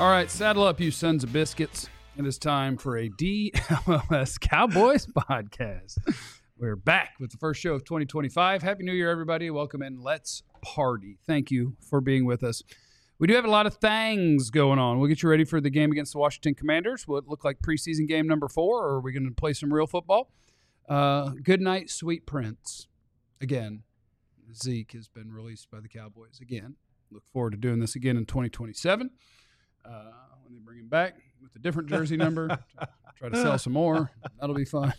All right, saddle up, you sons of biscuits. It is time for a DLS Cowboys podcast. We're back with the first show of 2025. Happy New Year, everybody. Welcome in. Let's party. Thank you for being with us. We do have a lot of things going on. We'll get you ready for the game against the Washington Commanders. Will it look like preseason game number 4, or are we going to play some real football? Good night, sweet prince. Again, Zeke has been released by the Cowboys again. Look forward to doing this again in 2027. When they bring him back with a different jersey number, try to sell some more. That'll be fun.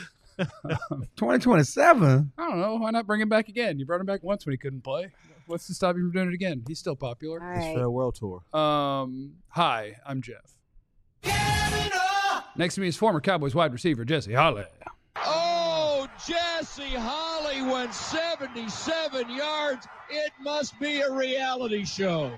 2027? I don't know. Why not bring him back again? You brought him back once when he couldn't play. What's to stop you from doing it again? He's still popular. All right. His farewell tour. Hi, I'm Jeff. Next to me is former Cowboys wide receiver Jesse Holley. Oh, Jesse Holley went 77 yards. It must be a reality show.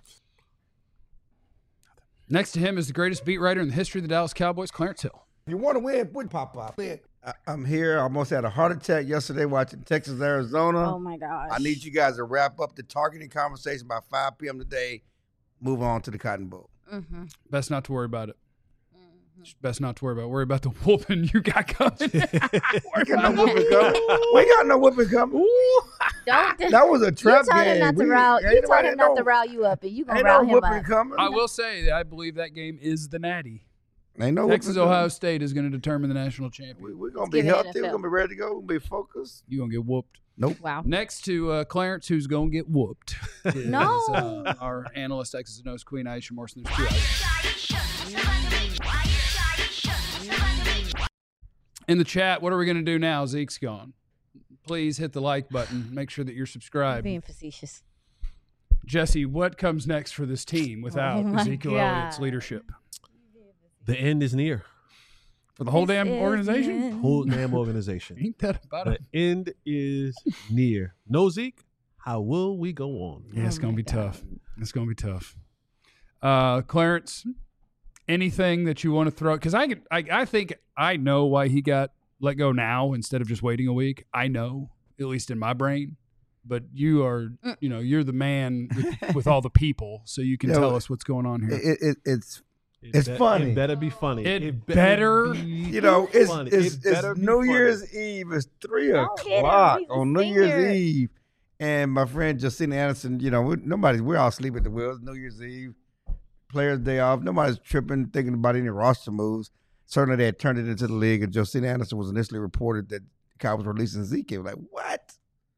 Next to him is the greatest beat writer in the history of the Dallas Cowboys, Clarence Hill. If you want to win, put pop up. I'm here. I almost had a heart attack yesterday watching Texas, Arizona. Oh, my gosh. I need you guys to wrap up the targeting conversation by 5 p.m. today. Move on to the Cotton Bowl. Mm-hmm. Best not to worry about it. Best not to worry about it. Worry about the whooping you got coming. We got no whipping coming. We got no whipping coming. That was a trap you told game. him not to rile. You told him not to rile you up, and you gonna Ain't rile no him whipping up. coming. I will say, I believe that game is the natty. Ain't no Texas, whipping Ohio coming. State is going to determine the national champion. We're going to Let's be give it healthy. We're NFL. going to be ready to go. We're going to be focused. You're going to get whooped. Nope. Wow. Next to Clarence, who's going to get whooped, is No. Our analyst, Texas Nose Queen, Aisha Morrison. There's 2 Aisha. In the chat, what are we going to do now? Zeke's gone. Please hit the like button. Make sure that you're I'm subscribed. being facetious. Jesse, what comes next for this team without Oh my Ezekiel Elliott's God. leadership? The end is near. For the whole This damn is organization? it. Whole damn organization. Ain't that about The it? end is near. No Zeke, how will we go on? Yeah, it's Oh going to my be God. tough. It's going to be tough. Clarence, anything that you want to throw? Because I think I know why he got let go now instead of just waiting a week. I know, at least in my brain. But you are, you're the man with all the people, so you can Yeah, tell us what's going on here. It's funny. It better be funny. It better- be You know, it's funny. it's, It better it's be New funny. Year's Eve. It's 3 Don't hit him. o'clock He's a on New Year's senior. Eve, and my friend Justina Anderson. You know, we're all asleep at the wheels. New Year's Eve, players' day off. Nobody's tripping, thinking about any roster moves. Certainly, they had turned it into the league, and Justina Anderson was initially reported that the Cowboys were releasing Zeke. Like what?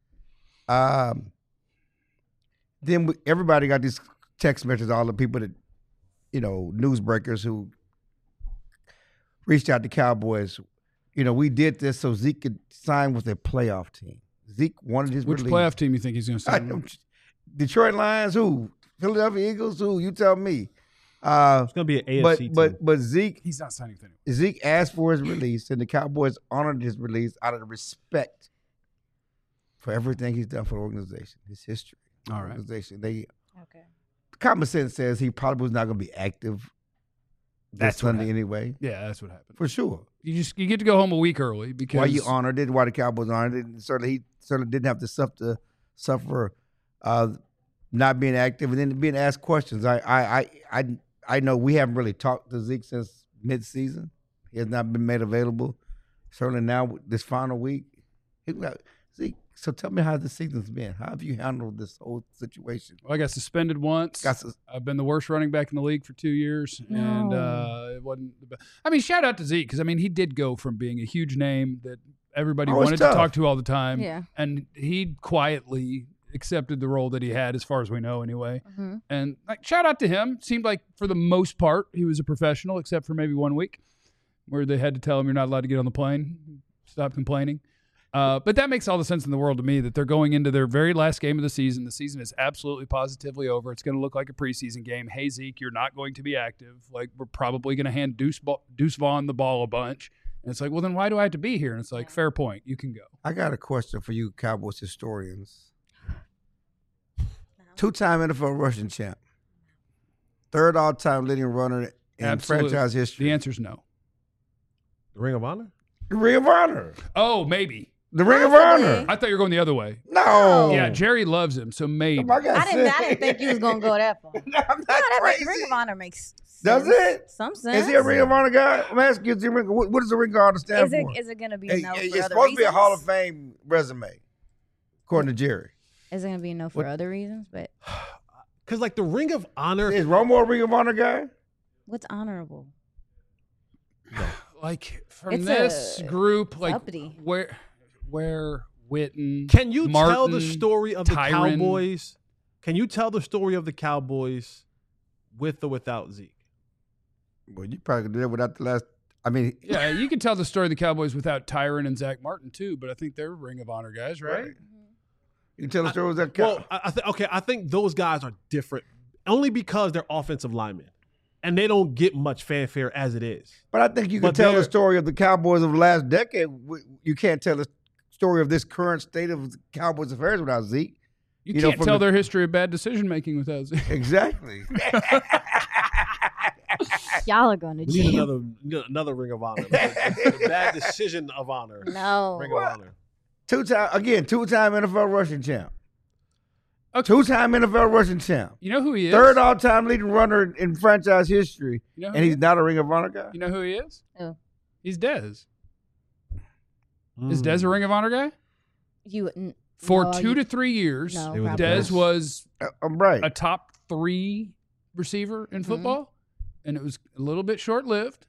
Then everybody got these text messages. All the people that, newsbreakers who reached out to Cowboys. We did this so Zeke could sign with a playoff team. Zeke wanted his Which release. playoff team you think he's going to sign with? Detroit Lions, who? Philadelphia Eagles, who? You tell me. It's going to be an AFC team. But Zeke He's not signing with anyone. Zeke asked for his release, and the Cowboys honored his release out of the respect for everything he's done for the organization, his history. All right. Organization. Okay. Common sense says he probably was not going to be active this That's what Sunday happened. anyway, Yeah, that's what happened. for sure. You get to go home a week early because Why you honored it? Why the Cowboys honored it? And he certainly didn't have to suffer not being active and then being asked questions. I know we haven't really talked to Zeke since mid-season. He has not been made available. Certainly now this final week. Zeke, so tell me how the season's been. How have you handled this whole situation? Well, I got suspended once. I've been the worst running back in the league for 2 years, and it wasn't the best. I mean, shout out to Zeke because he did go from being a huge name that everybody Oh, it's wanted to tough. talk to all the time, Yeah. and he quietly accepted the role that he had, as far as we know, anyway. Mm-hmm. And shout out to him. Seemed like for the most part he was a professional, except for maybe 1 week where they had to tell him you're not allowed to get on the plane. Stop complaining. But that makes all the sense in the world to me that they're going into their very last game of the season. The season is absolutely positively over. It's going to look like a preseason game. Hey, Zeke, you're not going to be active. Like, we're probably going to hand Deuce Vaughn the ball a bunch. And it's like, well, then why do I have to be here? And it's like, fair point. You can go. I got a question for you Cowboys historians. 2-time NFL rushing champ. 3rd all-time leading runner in Absolutely. franchise history. The answer's no. The Ring of Honor? Ring of Honor. Oh, maybe. The Ring of Possibly. Honor. I thought you were going the other way. No. Yeah, Jerry loves him, so maybe. My God, I didn't think you was gonna go that far. I'm No, not that crazy. Ring of Honor makes sense. Does it? Some sense. Is he a Ring of Honor guy? I'm asking you, what does the Ring of Honor stand Is it for? is it gonna be Hey, no for it's other supposed to be a Hall of reasons? Fame resume, according to Jerry. Is it gonna be no for other reasons? But Because like the Ring of Honor, Is Romo a Ring of Honor guy? what's honorable? Like from It's this a- group, like uppity. where Witten. can you tell the Martin, story of the Tyron. Cowboys? Can you tell the story of the Cowboys with or without Zeke? Well, you probably could do that without the last. I mean, Yeah, you can tell the story of the Cowboys without Tyron and Zach Martin too, but I think they're Ring of Honor guys, right? Right. You can tell the story that. Well, I think those guys are different only because they're offensive linemen, and they don't get much fanfare as it is. But I think you can But tell the they're- story of the Cowboys of the last decade. You can't tell the story of this current state of the Cowboys affairs without Zeke. You, You know, can't from tell the- their history of bad decision making without Zeke. Exactly. Y'all are gonna We need jail. another Ring of Honor. The bad decision of honor. No. Ring of Honor. Two-time NFL rushing champ. Okay. Two-time NFL rushing champ. You know who he is? Third all-time leading runner in franchise history, You know who and he he's is? not a Ring of Honor guy. You know who he is? Who? He's Dez. Is Mm. Dez a Ring of Honor guy? For no, 2 to 3 years, No, It was probably Dez not. was I'm right. a top 3 receiver in Mm-hmm. football, and it was a little bit short lived.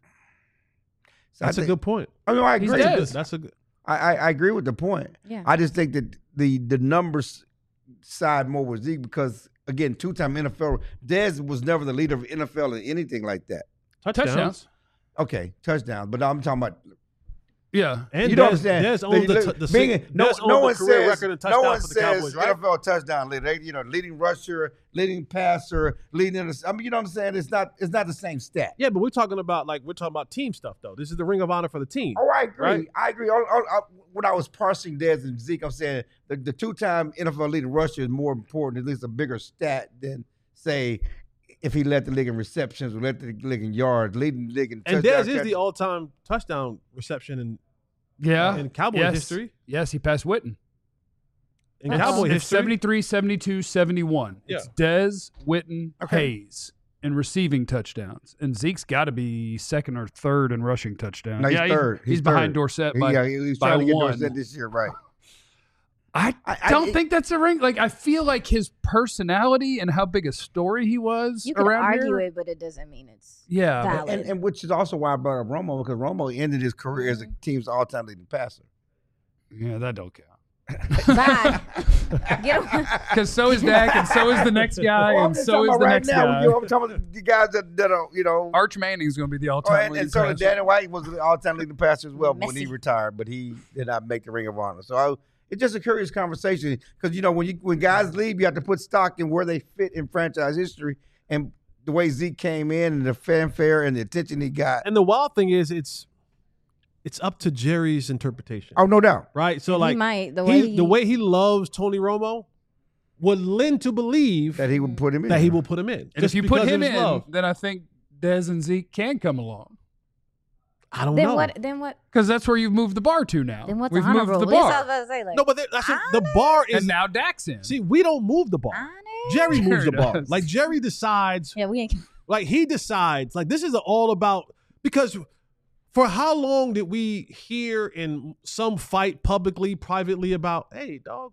So That's a good point. I mean, I He's agree. dead. That's a good. I agree with the point. Yeah. I just think that the numbers side more with Zeke because again, two-time NFL. Dez was never the leader of NFL or anything like that. Touchdowns. Okay, touchdowns, but I'm talking about. Yeah. And You don't Dez understand. owns No owns one the career says, record in no touchdowns one for the says Cowboys, right? NFL touchdown leader. Leading rusher, leading passer, leading. I mean, you know what I'm saying? It's not the same stat. Yeah, but we're talking about team stuff though. This is the Ring of Honor for the team. Oh, I agree. Right. I agree. When I was parsing Dez and Zeke, I'm saying the two-time NFL leading rusher is more important, at least a bigger stat than say if he led the league in receptions or led the league in yards, leading the league in And touchdown Dez is catches. the all-time touchdown reception Yeah. in Cowboys yes. history. Yes, he passed Witten. In Uh-oh. Cowboy It's history. 73, 72, 71. Yeah. It's Dez, Witten, Okay. Hayes in receiving touchdowns. And Zeke's got to be second or third in rushing touchdowns. No, he's yeah, third. He's He's behind third. Dorsett by, Yeah, he was by trying to get one. Dorsett this year, right? I don't think that's a ring. Like, I feel like his personality and how big a story he was You could around argue here. it, but it doesn't mean it's Yeah. but- valid. And which is also why I brought up Romo because Romo ended his career as the team's all-time leading passer. yeah, that don't count. Bye. Get him. Because so is Dak, and so is the next guy, Well, I'm and just so talking is about the right next now. guy. I'm talking about the guys that are, Arch Manning's going to be the Oh, all-time and so did passer. Danny White was the all-time leading passer as well when he Messi. retired, but he did not make the Ring of Honor. So it's just a curious conversation because when guys leave, you have to put stock in where they fit in franchise history and the way Zeke came in and the fanfare and the attention he got. And the wild thing is, it's up to Jerry's interpretation, Oh, no doubt. right? So He like might, the the way way he loves Tony Romo would lend to believe That he would put him in. that he will put him in. And Just if you put because him of his in, love. then I think Dez and Zeke can come along. I don't then know. what? Then what? Because that's where you've moved the bar to now. Then what's We've honorable? moved the That's what I was bar. about to say. Like, No, but the bar is And now Dak's in. see, we don't move the bar. honest? Jerry moves the Jerry bar. does. Like Jerry decides. Yeah, we ain't. Like he decides. Like this is all about because for how long did we hear in some fight publicly, privately about, hey, dog,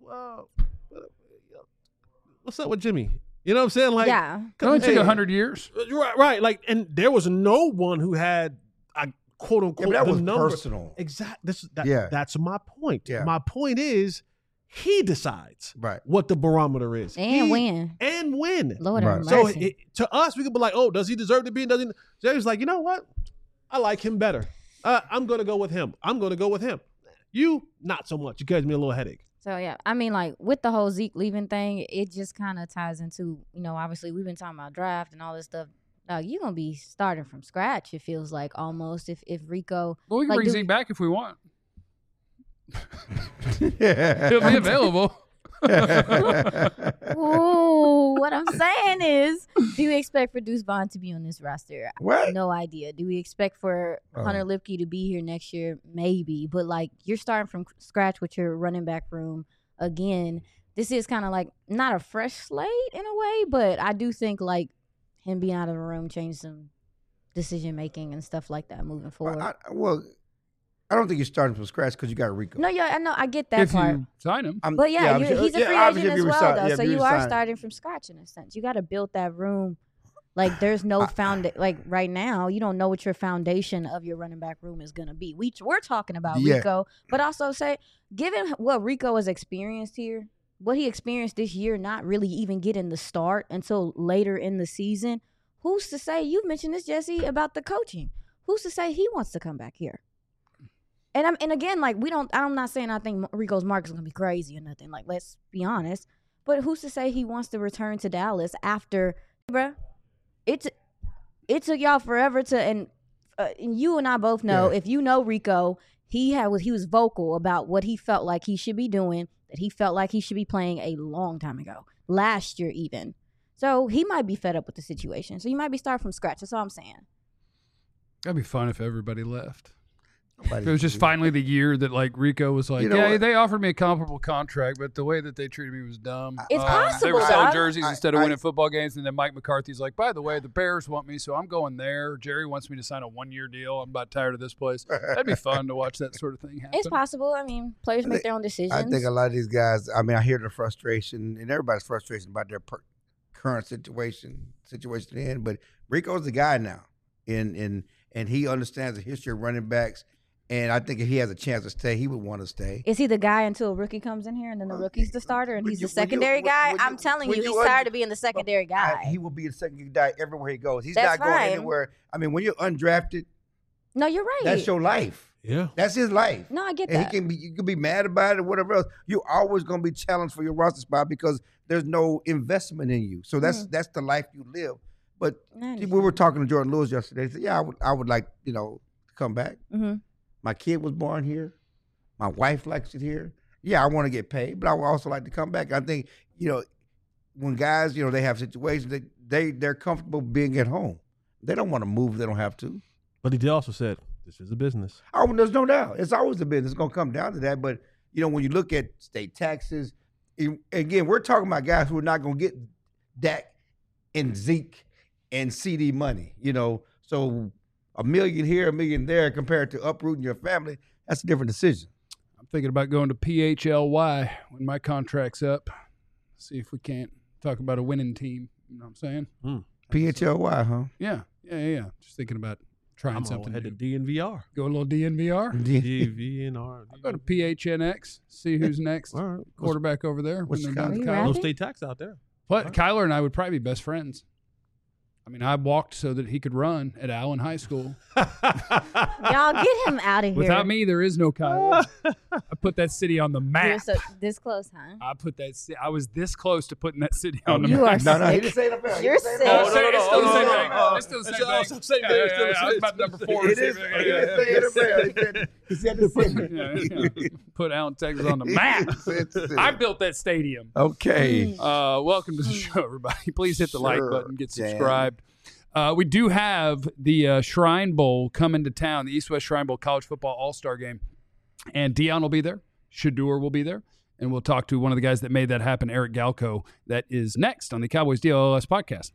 what's up with Jimmy? You know what I'm saying? Like, Yeah. It only took hey, 100 years. Right. Like, and there was no one who had a quote Yeah, unquote but that the was number. personal. Exactly. Yeah. That's my point. Yeah. My point is he decides Right. what the barometer is. And win. And win. Lord Right. have So mercy. to us, we could be like, oh, does he deserve to be? Doesn't Jerry's like, you know what? I like him better. I'm going to go with him. I'm going to go with him. You, not so much. You gives me a little headache. So yeah, I mean, like with the whole Zeke leaving thing, it just kind of ties into, obviously we've been talking about draft and all this stuff. Dog, you're gonna be starting from scratch. It feels like almost if Rico. Well, we can Like, bring do Zeke we- back if we want. Yeah. He'll be available. Ooh, what I'm saying is, do you expect for Deuce Vaughn to be on this roster? What? No idea. Do we expect for Hunter Lipke to be here next year? Maybe. But, like, you're starting from scratch with your running back room again. This is kind of like not a fresh slate in a way, but I do think, like, him being out of the room changed some decision-making and stuff like that moving forward. I don't think you're starting from scratch because you got Rico. No, yeah, I know. I get that If part. you sign him. But yeah, he's a free agent as well, though. So you are starting. starting from scratch in a sense. You got to build that room. Like, there's no like right now, you don't know what your foundation of your running back room is going to be. We're talking about Rico, but also given what Rico has experienced here, what he experienced this year, not really even getting the start until later in the season. Who's to say? You mentioned this, Jesse, about the coaching. Who's to say he wants to come back here? And again, like, I'm not saying I think Rico's market is going to be crazy or nothing. Like, let's be honest. But who's to say he wants to return to Dallas after, bruh? It took y'all forever to, and you and I both know, if you know Rico, he was vocal about what he felt like he should be doing, that he felt like he should be playing a long time ago, last year even. So he might be fed up with the situation. So you might be starting from scratch. That's all I'm saying. That'd be fun if everybody left. It was just finally the year that, like, Rico was like, they offered me a comparable contract, but the way that they treated me was dumb. It's possible, They were selling dog. jerseys instead of winning football games, and then Mike McCarthy's like, by the way, the Bears want me, so I'm going there. Jerry wants me to sign a 1-year deal. I'm about tired of this place. That'd be fun to watch that sort of thing happen. It's possible. I mean, players make their own decisions. I think a lot of these guys, I mean, I hear the frustration, and everybody's frustration about their current situation they're in, but Rico's the guy now, and he understands the history of running backs. And I think if he has a chance to stay, he would want to stay. Is he the guy until a rookie comes in here and then the rookie's the starter and he's the secondary guy? I'm telling you, he's tired of being the secondary guy. He will be the secondary guy everywhere he goes. He's That's not going fine. anywhere. I mean, when you're undrafted, No, you're right. that's your life. Yeah. That's his life. No, I get And that. you can be mad about it or whatever else. You're always going to be challenged for your roster spot because there's no investment in you. So that's the life you live. But we were talking to Jordan Lewis yesterday. He said, yeah, I would like, to come back. Mm-hmm. My kid was born here. My wife likes it here. Yeah, I want to get paid, but I would also like to come back. I think, when guys, they have situations, they're comfortable being at home. They don't want to move if they don't have to. But he did also said, this is a business. Oh, there's no doubt. It's always a business. It's going to come down to that. But, when you look at state taxes, again, we're talking about guys who are not going to get Dak and Zeke and CD money, So $1 million here, $1 million there compared to uprooting your family, that's a different decision. I'm thinking about going to PHLY when my contract's up. See if we can't talk about a winning team. You know what I'm saying? PHLY, huh? Yeah. Just thinking about trying I'm something head to new. DNVR. Go a little DNVR. DNVR. I'll go to PHNX, see who's next. All right. Quarterback over there. what's when the they're done with Are you college. No rapping? state tax out there. But Kyler and I would probably be best friends. I mean, I walked so that he could run at Allen High School. Y'all get him out of here. Without me, there is no Kyler. I put that city on the You're map. so this close, huh? I was this close to putting that city on the You map. are No, he sick. didn't say NFL. You're sick. It's still the same no, thing. no. It's still the It's same all thing. the same thing. It's still the I was same. about number 4. It is. He didn't say NFL. He said the city. Yeah. Put Allen, Texas on the map. I built that stadium. Okay. Welcome to the show, everybody. Please hit the like Sure, button, get Dan. subscribed. We do have the Shrine Bowl coming to town, the East West Shrine Bowl College Football All-Star Game. And Dion will be there. Shador will be there. And we'll talk to one of the guys that made that happen, Eric Galco. That is next on the Cowboys DLLS podcast.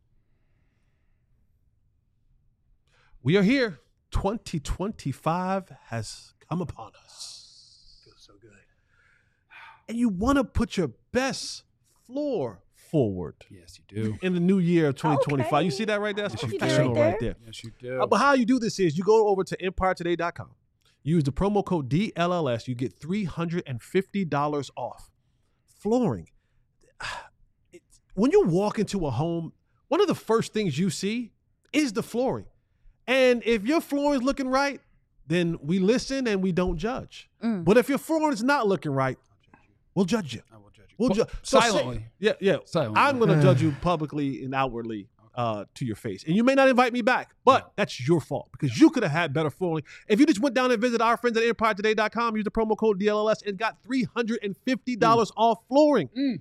We are here. 2025 has come upon us. Feels so good. And you want to put your best floor forward Yes, you do. in the new year of 2025. Okay. You see that right there? That's I see that professional right right there. Yes, you do. But how you do this is you go over to EmpireToday.com. Use the promo code DLLS. You get $350 off. Flooring. When you walk into a home, one of the first things you see is the flooring. And if your flooring is looking right, then we listen and we don't judge. But if your flooring is not looking right, we'll judge you. I will judge you. We'll Pu- so silently. yeah. Silently. I'm going to judge you publicly and outwardly to your face. And you may not invite me back, but that's your fault because you could have had better flooring. If you just went down and visited our friends at EmpireToday.com, use the promo code DLLS and got $350 off flooring.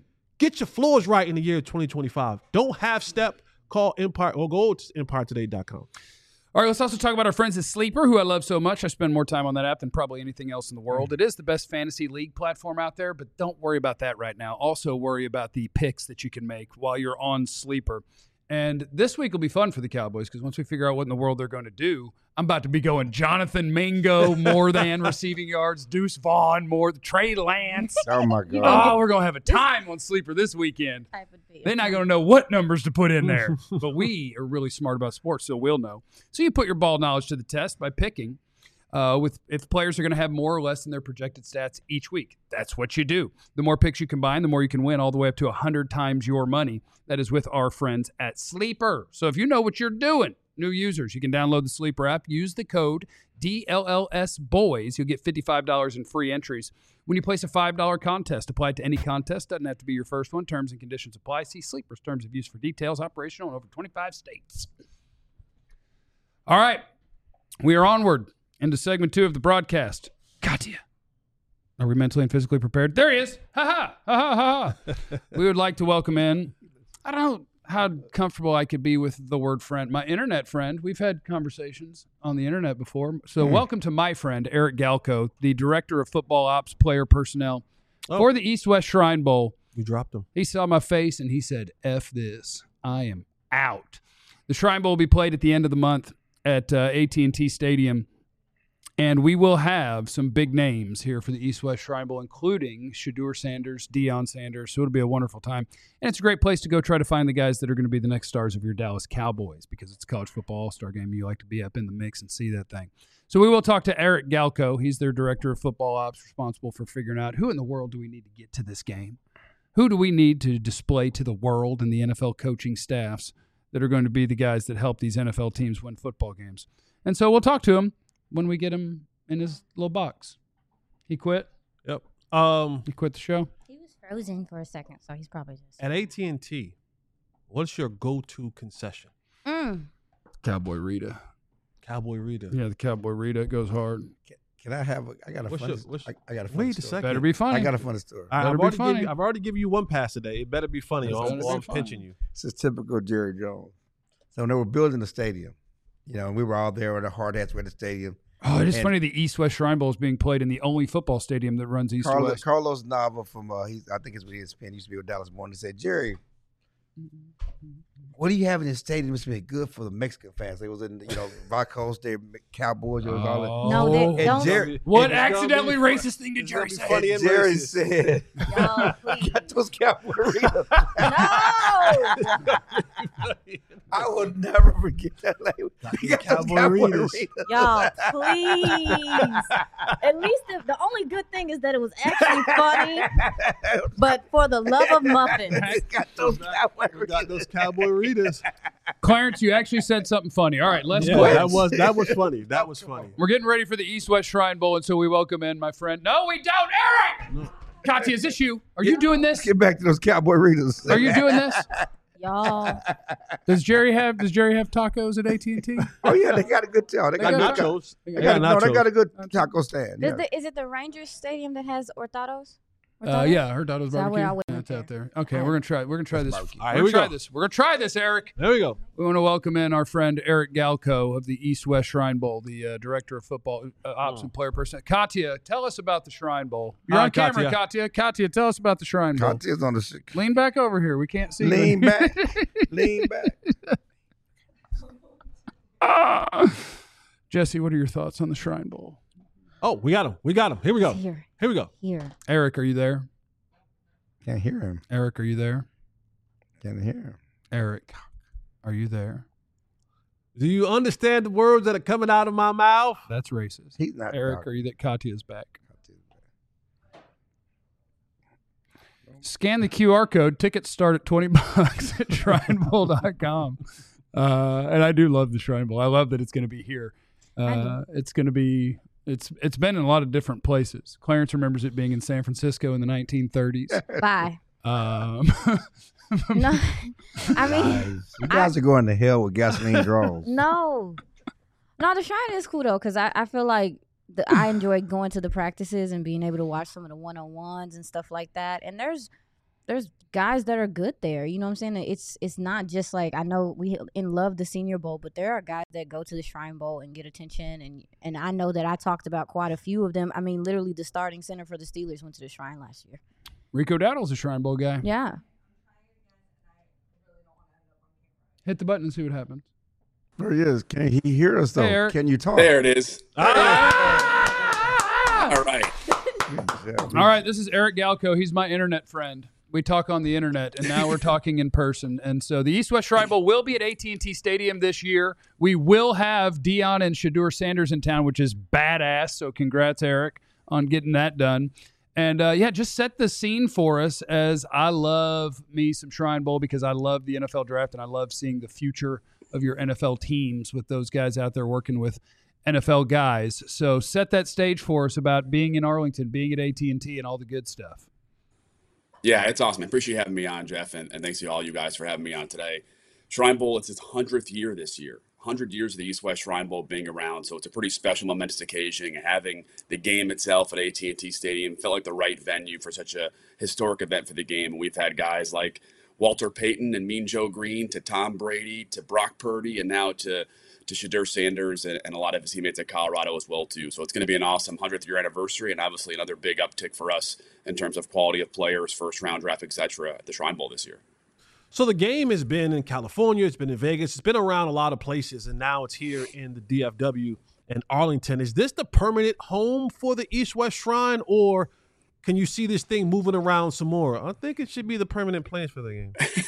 Get your floors right in the year 2025. Don't half-step. Call Empire or go to EmpireToday.com. All right, let's also talk about our friends at Sleeper, who I love so much. I spend more time on that app than probably anything else in the world. It is the best fantasy league platform out there, but don't worry about that right now. Also worry about the picks that you can make while you're on Sleeper. And this week will be fun for the Cowboys because once we figure out what in the world they're going to do, I'm about to be going Jonathan Mingo more than receiving yards, Deuce Vaughn more, Trey Lance. Oh, my God. Oh, we're going to have a time on Sleeper this weekend. They're not going to know what numbers to put in there. But we are really smart about sports, so we'll know. So you put your ball knowledge to the test by picking if players are going to have more or less than their projected stats each week. That's what you do. The more picks you combine, the more you can win, all the way up to 100 times your money. That is with our friends at Sleeper. So if you know what you're doing, new users, you can download the Sleeper app. Use the code DLLSBOYS. You'll get $55 in free entries. When you place a $5 contest, apply it to any contest. Doesn't have to be your first one. Terms and conditions apply. See Sleeper's terms of use for details. Operational in over 25 states. All right. We are onward into segment 2 of the broadcast. Katya. Are we mentally and physically prepared? There he is. Ha-ha. Ha-ha. Ha-ha. We would like to welcome in, I don't know how comfortable I could be with the word friend. My internet friend. We've had conversations on the internet before. So welcome to my friend, Eric Galko, the Director of Football Ops, Player Personnel for the East-West Shrine Bowl. We dropped him. He saw my face and he said, F this. I am out. The Shrine Bowl will be played at the end of the month at AT&T Stadium. And we will have some big names here for the East-West Shrine Bowl, including Shedeur Sanders, Deion Sanders. So it'll be a wonderful time. And it's a great place to go try to find the guys that are going to be the next stars of your Dallas Cowboys because it's a college football all-star game. You like to be up in the mix and see that thing. So we will talk to Eric Galko. He's their Director of Football Ops, responsible for figuring out who in the world do we need to get to this game? Who do we need to display to the world and the NFL coaching staffs that are going to be the guys that help these NFL teams win football games? And so we'll talk to him when we get him in his little box. He quit? Yep. He quit the show? He was frozen for a second, so he's probably just... At AT&T, what's your go-to concession? Cowboy Rita. Cowboy Rita. Yeah, the Cowboy Rita. It goes hard. Can I have I got a funny story. Wait a second. Better be funny. I got a funny story. I've already given you one pass today. It better be funny or I'm pinching you. This is typical Jerry Jones. So when they were building the stadium, and we were all there with the hard hats at the stadium. Oh, it is funny the East-West Shrine Bowl is being played in the only football stadium that runs east to west. Carlos Nava from, I think it's with ESPN, used to be with Dallas Morning, said, Jerry, what do you have in this stadium that's been good for the Mexican fans? It was in, Vacos, they Cowboys, it was all that. No, they don't. Jerry, what accidentally racist thing did Jerry say? Jerry said, Yo, please. got those Cowboy Ritas. No! I will never forget that. You got those Cowboy Ritas. Y'all, please. At least the only good thing is that it was actually funny. But for the love of muffins. Got those Cowboy Ritas. Got those Cowboy Ritas. Clarence, you actually said something funny. All right, let's Yeah, go. that was funny. That was funny. We're getting ready for the East-West Shrine Bowl, and so we welcome in my friend. No, we don't, Eric! No. Katya, is this you? Are you doing this? Get back to those Cowboy Ritas. Are you doing this? Y'all. Does Jerry have tacos at AT&T? Oh yeah, they got a good taco. They got nachos. They got a good taco stand. Yeah. Is it the Rangers Stadium that has Hurtado's? Yeah, Hurtado's that where I barbecue. went Yeah, it's there? out there. Okay, we're gonna try this. All right, We're here we gonna try go. this. We're gonna try this, Eric. There we go. We want to welcome in our friend Eric Galko of the East-West Shrine Bowl, the Director of Football Ops and Player Personnel. Katya, tell us about the Shrine Bowl. You're Hi, on camera, Katya. Katya, tell us about the Shrine Bowl. Katya's on the Lean back over here. We can't see. Lean you. back. Lean back. Jesse, what are your thoughts on the Shrine Bowl? Oh, we got him. Here we go. Here. Here we go. Here. Eric, are you there? Can't hear him. Eric, are you there? Can't hear him. Eric, are you there? Do you understand the words that are coming out of my mouth? That's racist. He's not. Eric, are you there? Katya's back. Scan the QR code. Tickets start at $20 at shrinebowl.com. And I do love the Shrine Bowl. I love that it's going to be here. It's going to be. It's been in a lot of different places. Clarence remembers it being in San Francisco in the 1930s. Bye. No, I mean, you guys are going to hell with gasoline draws. no, the Shrine is cool though, because I feel like I enjoy going to the practices and being able to watch some of the one-on-ones and stuff like that. And there's there's guys that are good there. You know what I'm saying? It's not just like, I know we love the Senior Bowl, but there are guys that go to the Shrine Bowl and get attention, and I know that I talked about quite a few of them. I mean, literally the starting center for the Steelers went to the Shrine last year. Rico Dowdle's a Shrine Bowl guy. Yeah. Hit the button and see what happens. There he is. Can he hear us, though? Hey, Eric. Can you talk? There it is. All right. All right, this is Eric Galco. He's my internet friend. We talk on the internet, and now we're talking in person. And so the East-West Shrine Bowl will be at AT&T Stadium this year. We will have Deion and Shedeur Sanders in town, which is badass. So congrats, Eric, on getting that done. And, just set the scene for us, as I love me some Shrine Bowl because I love the NFL draft and I love seeing the future of your NFL teams with those guys out there working with NFL guys. So set that stage for us about being in Arlington, being at AT&T, and all the good stuff. Yeah, it's awesome. I appreciate you having me on, Jeff, and thanks to all you guys for having me on today. Shrine Bowl, it's its 100th year this year. 100 years of the East-West Shrine Bowl being around, so it's a pretty special, momentous occasion. Having the game itself at AT&T Stadium felt like the right venue for such a historic event for the game. And we've had guys like Walter Payton and Mean Joe Green, to Tom Brady, to Brock Purdy, and now to Shedeur Sanders and a lot of his teammates at Colorado as well, too. So it's going to be an awesome 100th year anniversary, and obviously another big uptick for us in terms of quality of players, first-round draft, et cetera, at the Shrine Bowl this year. So the game has been in California, it's been in Vegas, it's been around a lot of places, and now it's here in the DFW in Arlington. Is this the permanent home for the East-West Shrine, or can you see this thing moving around some more? I think it should be the permanent place for the game.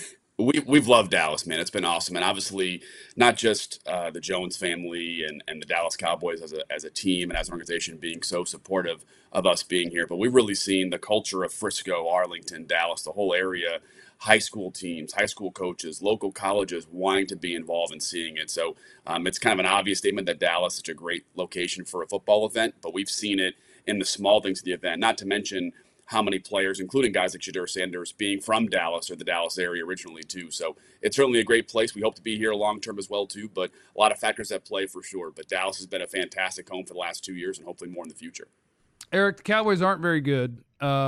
We've loved Dallas, man. It's been awesome. And obviously not just the Jones family and the Dallas Cowboys as a team and as an organization being so supportive of us being here, but we've really seen the culture of Frisco, Arlington, Dallas, the whole area, high school teams, high school coaches, local colleges wanting to be involved and seeing it. So it's kind of an obvious statement that Dallas is such a great location for a football event, but we've seen it in the small things of the event, not to mention how many players, including guys like Shedeur Sanders, being from Dallas or the Dallas area originally, too. So it's certainly a great place. We hope to be here long-term as well, too, but a lot of factors at play for sure. But Dallas has been a fantastic home for the last 2 years and hopefully more in the future. Eric, the Cowboys aren't very good,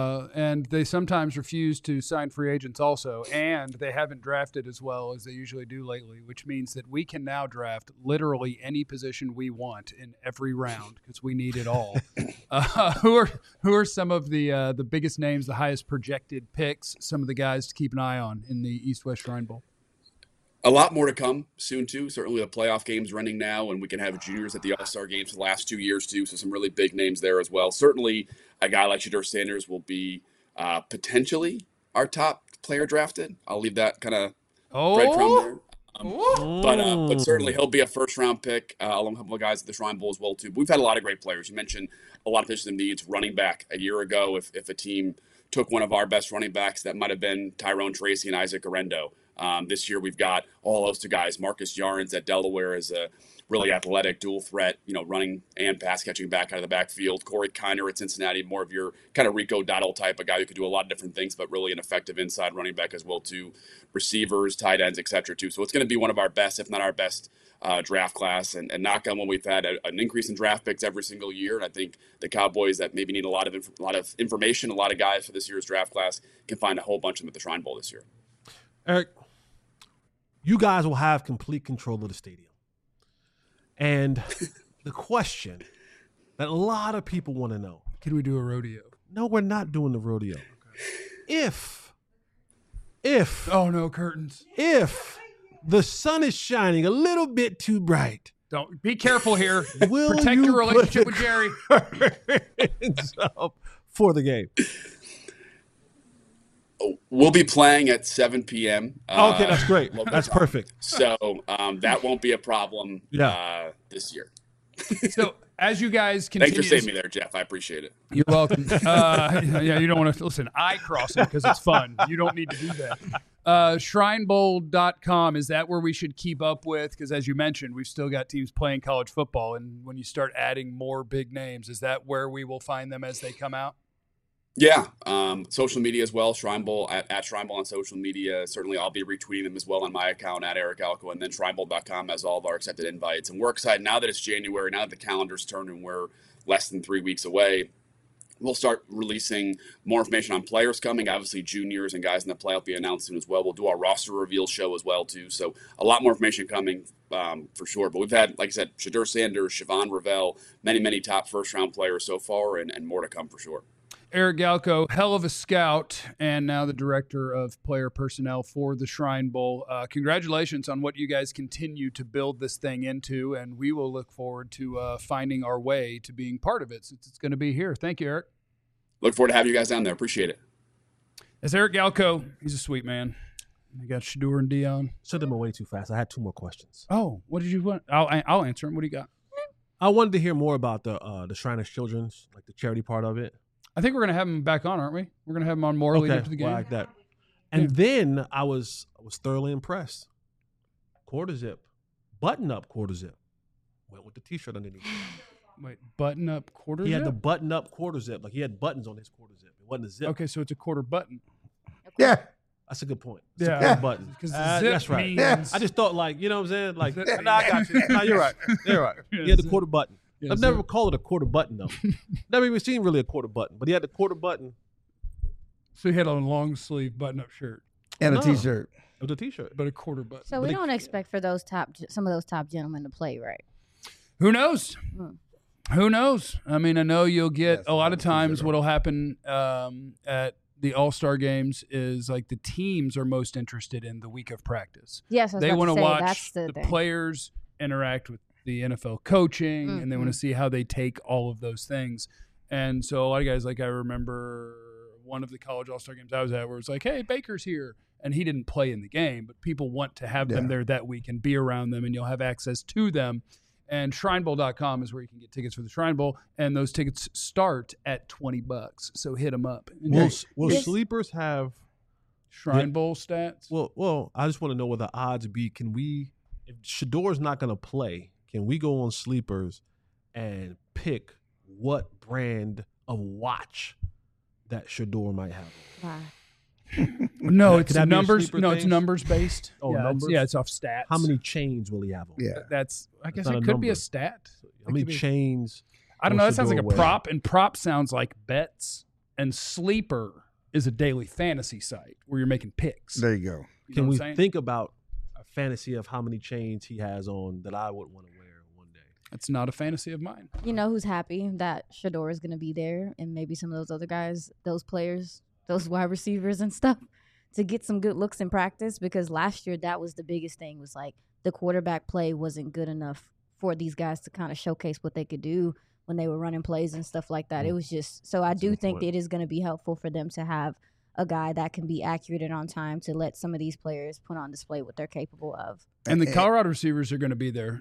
and they sometimes refuse to sign free agents also, and they haven't drafted as well as they usually do lately, which means that we can now draft literally any position we want in every round because we need it all. Who are some of the biggest names, the highest projected picks, some of the guys to keep an eye on in the East-West Shrine Bowl? A lot more to come soon, too. Certainly the playoff game's running now, and we can have juniors at the All-Star games for the last 2 years, too, so some really big names there as well. Certainly a guy like Shedeur Sanders will be potentially our top player drafted. I'll leave that kind of breadcrumb there. But certainly he'll be a first-round pick along with a couple of guys at the Shrine Bowl as well, too. But we've had a lot of great players. You mentioned a lot of position needs. Running back a year ago, if a team took one of our best running backs, that might have been Tyrone Tracy and Isaac Orendo. This year we've got all those two guys. Marcus Yarns at Delaware is a really athletic dual threat, running and pass catching back out of the backfield. Corey Kiner at Cincinnati, more of your kind of Rico Dowdle type, a guy who could do a lot of different things, but really an effective inside running back as well too. Receivers, tight ends, et cetera too. So it's going to be one of our best, if not our best, draft class. And knock on wood, we've had an increase in draft picks every single year. And I think the Cowboys that maybe need a lot of information, a lot of guys for this year's draft class, can find a whole bunch of them at the Shrine Bowl this year. Eric, you guys will have complete control of the stadium. And the question that a lot of people want to know. Can we do a rodeo? No, we're not doing the rodeo. Okay. If oh no, curtains. If the sun is shining a little bit too bright. Don't be careful here. Will Protect you your relationship with Jerry. For the game. We'll be playing at 7 p.m. Okay, that's great. That's time. Perfect. So that won't be a problem this year. So as you guys continue, thanks for saving me there, Jeff. I appreciate it. You're welcome. You don't want to listen. I cross it because it's fun. You don't need to do that. Shrinebowl.com, is that where we should keep up with? Because as you mentioned, we've still got teams playing college football, and when you start adding more big names, is that where we will find them as they come out? Yeah, social media as well. Shrine Bowl at Shrine Bowl on social media. Certainly, I'll be retweeting them as well on my account at Eric Galco, and then Shrinebowl.com has all of our accepted invites. And we're excited now that it's January, now that the calendar's turned and we're less than 3 weeks away. We'll start releasing more information on players coming. Obviously, juniors and guys in the play will be announced soon as well. We'll do our roster reveal show as well, too. So a lot more information coming for sure. But we've had, like I said, Shedeur Sanders, Siobhan Ravel, many top first-round players so far, and more to come for sure. Eric Galko, hell of a scout, and now the director of player personnel for the Shrine Bowl. Congratulations on what you guys continue to build this thing into, and we will look forward to finding our way to being part of it since it's going to be here. Thank you, Eric. Look forward to having you guys down there. Appreciate it. That's Eric Galko. He's a sweet man. I got Shedeur and Dion. Sent them away too fast. I had 2 more questions. Oh, what did you want? I'll answer them. What do you got? I wanted to hear more about the Shriners Children's, like the charity part of it. I think we're going to have him back on, aren't we? We're going to have him on more lead up to the game. Well, like that. And then I was thoroughly impressed. Quarter zip, button up quarter zip. Went with the T-shirt underneath. Wait, button up quarter zip? He had the button up quarter zip. Like he had buttons on his quarter zip. It wasn't a zip. Okay, so it's a quarter button. Yeah. That's a good point. Yeah. A quarter button. Because that's right. means... I just thought like, you know what I'm saying? Like, nah, I got you. No, you're right. You're right. He had the quarter button. Yeah, I've never called it a quarter button though. Never even seen really a quarter button, but he had the quarter button. So he had on a long sleeve button up shirt. And a T-shirt. With a T-shirt. But a quarter button. So we don't expect for some of those top gentlemen to play, right? Who knows? Who knows? I mean, I know you'll get a lot of times what'll happen at the All-Star games is like the teams are most interested in the week of practice. Yes, they want to watch that's the players interact with the NFL coaching, and they want to see how they take all of those things. And so a lot of guys, like I remember one of the college All-Star games I was at where it was like, hey, Baker's here. And he didn't play in the game, but people want to have them there that week and be around them, and you'll have access to them. And ShrineBowl.com is where you can get tickets for the Shrine Bowl, and those tickets start at $20. So hit them up. Will sleepers have Shrine Bowl stats? Well, I just want to know what the odds be. Can we, if Shedeur's not going to play, can we go on sleepers and pick what brand of watch that Shedeur might have? Wow. No, it's numbers. No, it's numbers based. Oh, yeah, numbers? It's off stats. How many chains will he have on? Yeah. That's. I guess not it a could be a number. stat. How many chains? I don't know. will That sounds like a Shedeur wear? prop, and prop sounds like bets. And sleeper is a daily fantasy site where you're making picks. There you go. You know Can what we I'm saying? think about a fantasy of how many chains he has on that I would want to wear one day? It's not a fantasy of mine. You know who's happy that Shedeur is going to be there, and maybe some of those other guys, those players, those wide receivers and stuff, to get some good looks in practice, because last year that was the biggest thing, was like the quarterback play wasn't good enough for these guys to kind of showcase what they could do when they were running plays and stuff like that. It was just, so I do think that it is going to be helpful for them to have a guy that can be accurate and on time to let some of these players put on display what they're capable of. And the Colorado receivers are going to be there.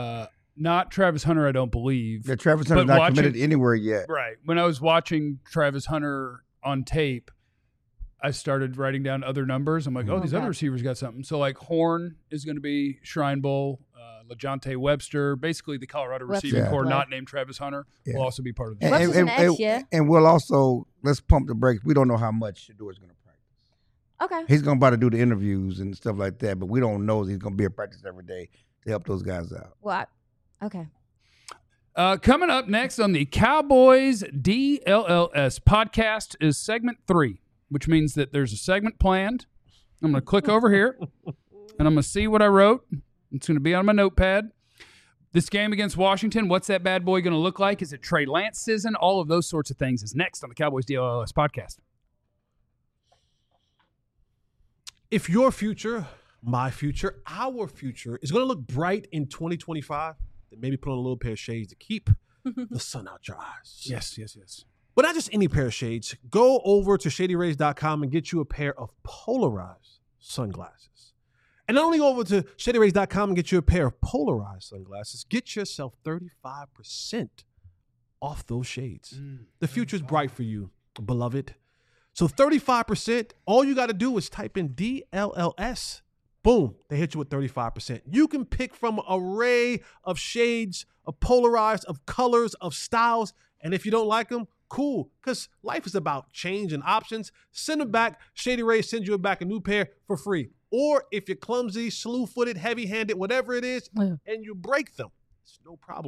Not Travis Hunter, I don't believe. Yeah, Travis Hunter's not committed anywhere yet. Right. When I was watching Travis Hunter on tape, I started writing down other numbers. I'm like, these other receivers got something. So, like, Horn is going to be Shrine Bowl. LeJontay Webster, basically the Colorado receiving core, not named Travis Hunter, will also be part of the and we'll also, let's pump the brakes. We don't know how much Shedeur is going to practice. Okay. He's going to about to do the interviews and stuff like that, but we don't know if he's going to be at practice every day to help those guys out. Well, okay. Coming up next on the Cowboys DLLS podcast is segment 3, which means that there's a segment planned. I'm going to click over here, and I'm going to see what I wrote. It's going to be on my notepad. This game against Washington, what's that bad boy going to look like? Is it Trey Lance season? All of those sorts of things is next on the Cowboys DLLS podcast. If your future, my future, our future is going to look bright in 2025, then maybe put on a little pair of shades to keep the sun out your eyes. Yes. But not just any pair of shades. Go over to ShadyRays.com and get you a pair of polarized sunglasses. And not only go over to ShadyRays.com and get you a pair of polarized sunglasses, get yourself 35% off those shades. The future's bright for you, beloved. So 35%, all you got to do is type in DLLS. Boom, they hit you with 35%. You can pick from an array of shades, of polarized, of colors, of styles. And if you don't like them, cool, because life is about change and options. Send them back. Shady Rays sends you back a new pair for free. Or if you're clumsy, slew-footed, heavy-handed, whatever it is, and you break them, it's no problem.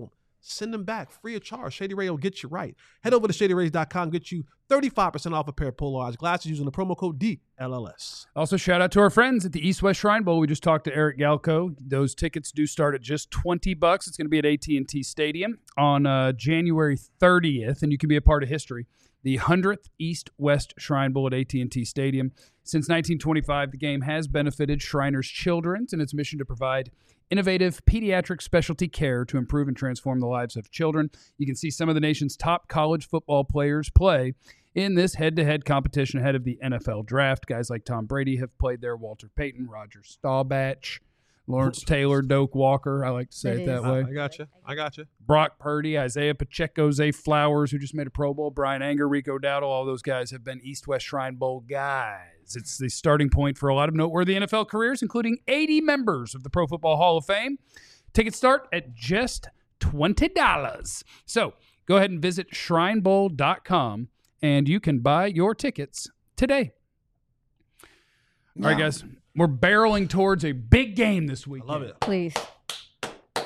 Send them back free of charge. Shady Ray will get you right. Head over to ShadyRays.com. Get you 35% off a pair of polarized glasses using the promo code DLLS. Also, shout out to our friends at the East West Shrine Bowl. We just talked to Eric Galco. Those tickets do start at just $20. It's going to be at AT&T Stadium on January 30th, and you can be a part of history. The 100th East West Shrine Bowl at AT&T Stadium. Since 1925, the game has benefited Shriners Children's in its mission to provide innovative pediatric specialty care to improve and transform the lives of children. You can see some of the nation's top college football players play in this head-to-head competition ahead of the NFL draft. Guys like Tom Brady have played there, Walter Payton, Roger Staubach, Lawrence Taylor, Doak Walker. I like to say it that way. I got you. Brock Purdy, Isaiah Pacheco, Zay Flowers, who just made a Pro Bowl, Brian Anger, Rico Dowdle, all those guys have been East-West Shrine Bowl guys. It's the starting point for a lot of noteworthy NFL careers, including 80 members of the Pro Football Hall of Fame. Tickets start at just $20. So go ahead and visit shrinebowl.com, and you can buy your tickets today. All right, guys. We're barreling towards a big game this week. I love it. Please. The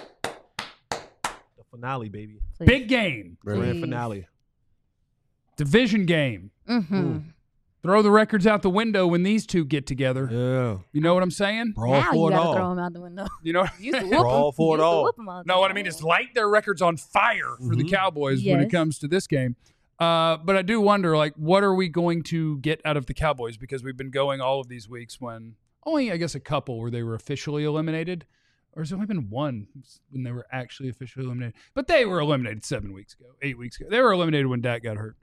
finale, baby. Please. Big game. Grand finale. Division game. Mm-hmm. Throw the records out the window when these two get together. Yeah. You know what I'm saying? Brawl Now you for it gotta all. throw them out the window. You know? You used to whoop Brawl 'em. for it You used to all. whoop 'em all the No, what I time. mean is light their records on fire for the Cowboys when it Yes. comes to this game. But I do wonder, like, what are we going to get out of the Cowboys? Because we've been going all of these weeks when only, I guess, a couple where they were officially eliminated. Or has there only been one when they were actually officially eliminated? But they were eliminated 8 weeks ago. They were eliminated when Dak got hurt.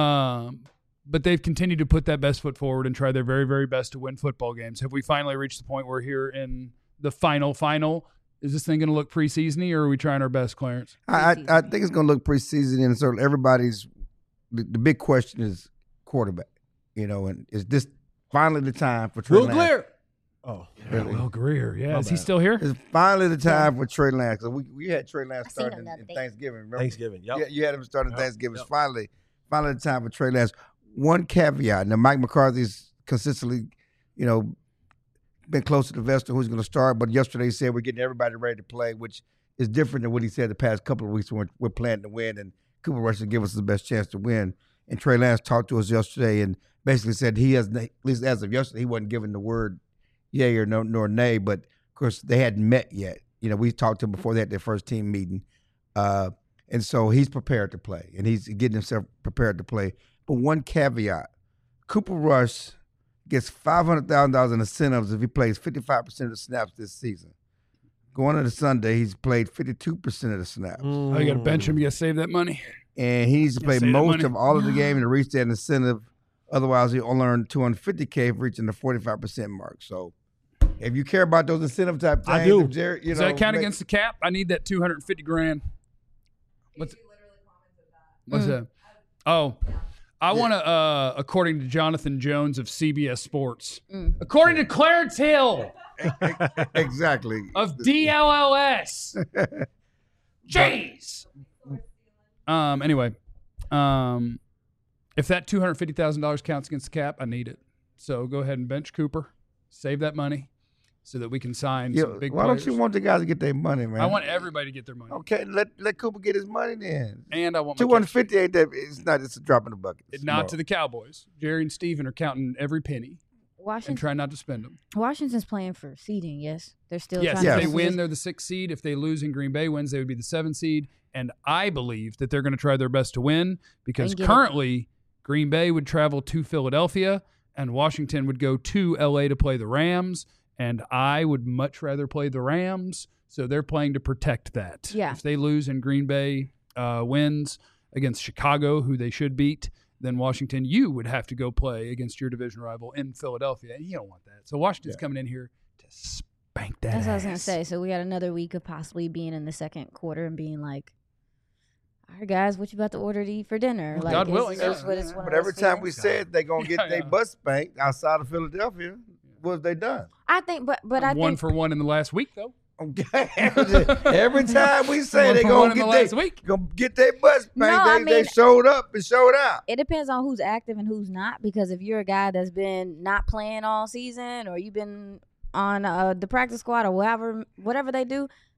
But they've continued to put that best foot forward and try their very, very best to win football games. Have we finally reached the point where here in the final, is this thing going to look preseason-y, or are we trying our best, Clarence? I think it's going to look preseason, and so everybody's the big question is quarterback. You know, and is this finally the time for Trey Will Lance? Greer. Oh, Really? Will Greer, yeah. My Is he bad. still here? It's finally the time for Trey Lance. So we had Trey Lance I seen starting him the in other day. Thanksgiving. Remember? Thanksgiving. Yep. Yeah, you had him starting Yep. Thanksgiving. Yep. Finally the time for Trey Lance. One caveat. Now, Mike McCarthy's consistently, been close to the vest of who's going to start. But yesterday he said we're getting everybody ready to play, which is different than what he said the past couple of weeks when we're planning to win. And Cooper Rush will give us the best chance to win. And Trey Lance talked to us yesterday and basically said he has, at least as of yesterday, he wasn't given the word yay or no, nor nay. But, of course, they hadn't met yet. We talked to him before they had their first team meeting. And so he's prepared to play, and he's getting himself prepared to play. But one caveat, Cooper Rush gets $500,000 in incentives if he plays 55% of the snaps this season. Going into Sunday, he's played 52% of the snaps. Oh, you got to bench him. You got to save that money. And he needs to play save that most money. of all of the game to reach that incentive. Otherwise, he'll earn $250K for reaching the 45% mark. So if you care about those incentive type things, I do. if Jared, Does that count against the cap? I need that $250,000. What's that? Oh, I want to, according to Jonathan Jones of CBS Sports, according to Clarence Hill Exactly. of DLLS. Jeez. Anyway, if that $250,000 counts against the cap, I need it. So go ahead and bench Cooper, save that money, so that we can sign some big why players. don't you want the guys to get their money, man? I want everybody to get their money, Okay, let Cooper get his money then. and I want my 250 ain't that? It's a drop in the bucket. It's not small. to the Cowboys. Jerry and Steven are counting every penny and Washington, trying not to spend them. Washington's playing for seeding. Yes, they're still Yes, trying if to they get win, this- they're the 6th seed. If they lose and Green Bay wins, they would be the 7th seed. And I believe that they're going to try their best to win because And get it. currently Green Bay would travel to Philadelphia and Washington would go to LA to play the Rams. And I would much rather play the Rams. So they're playing to protect that. Yeah. If they lose and Green Bay wins against Chicago, who they should beat, then Washington, you would have to go play against your division rival in Philadelphia. And you don't want that. So Washington's coming in here to spank that That's what I was gonna ass. say. So we got another week of possibly being in the second quarter and being like, "All right, guys, what you about to order to eat for dinner?" Like, God it's willing, just yeah. what it's one But of every those time we feelings. said they're gonna get Yeah, their yeah. butt spanked outside of Philadelphia, what have they done? I think, but I One think for one in the last week, though. Okay. Every time we say One they're for gonna one in the last get week. their butt spanked, No, I they mean- showed up and showed out. it depends on who's active and who's not. Because if you're a guy that's been not playing all season, or you've been on the practice squad or whatever they do,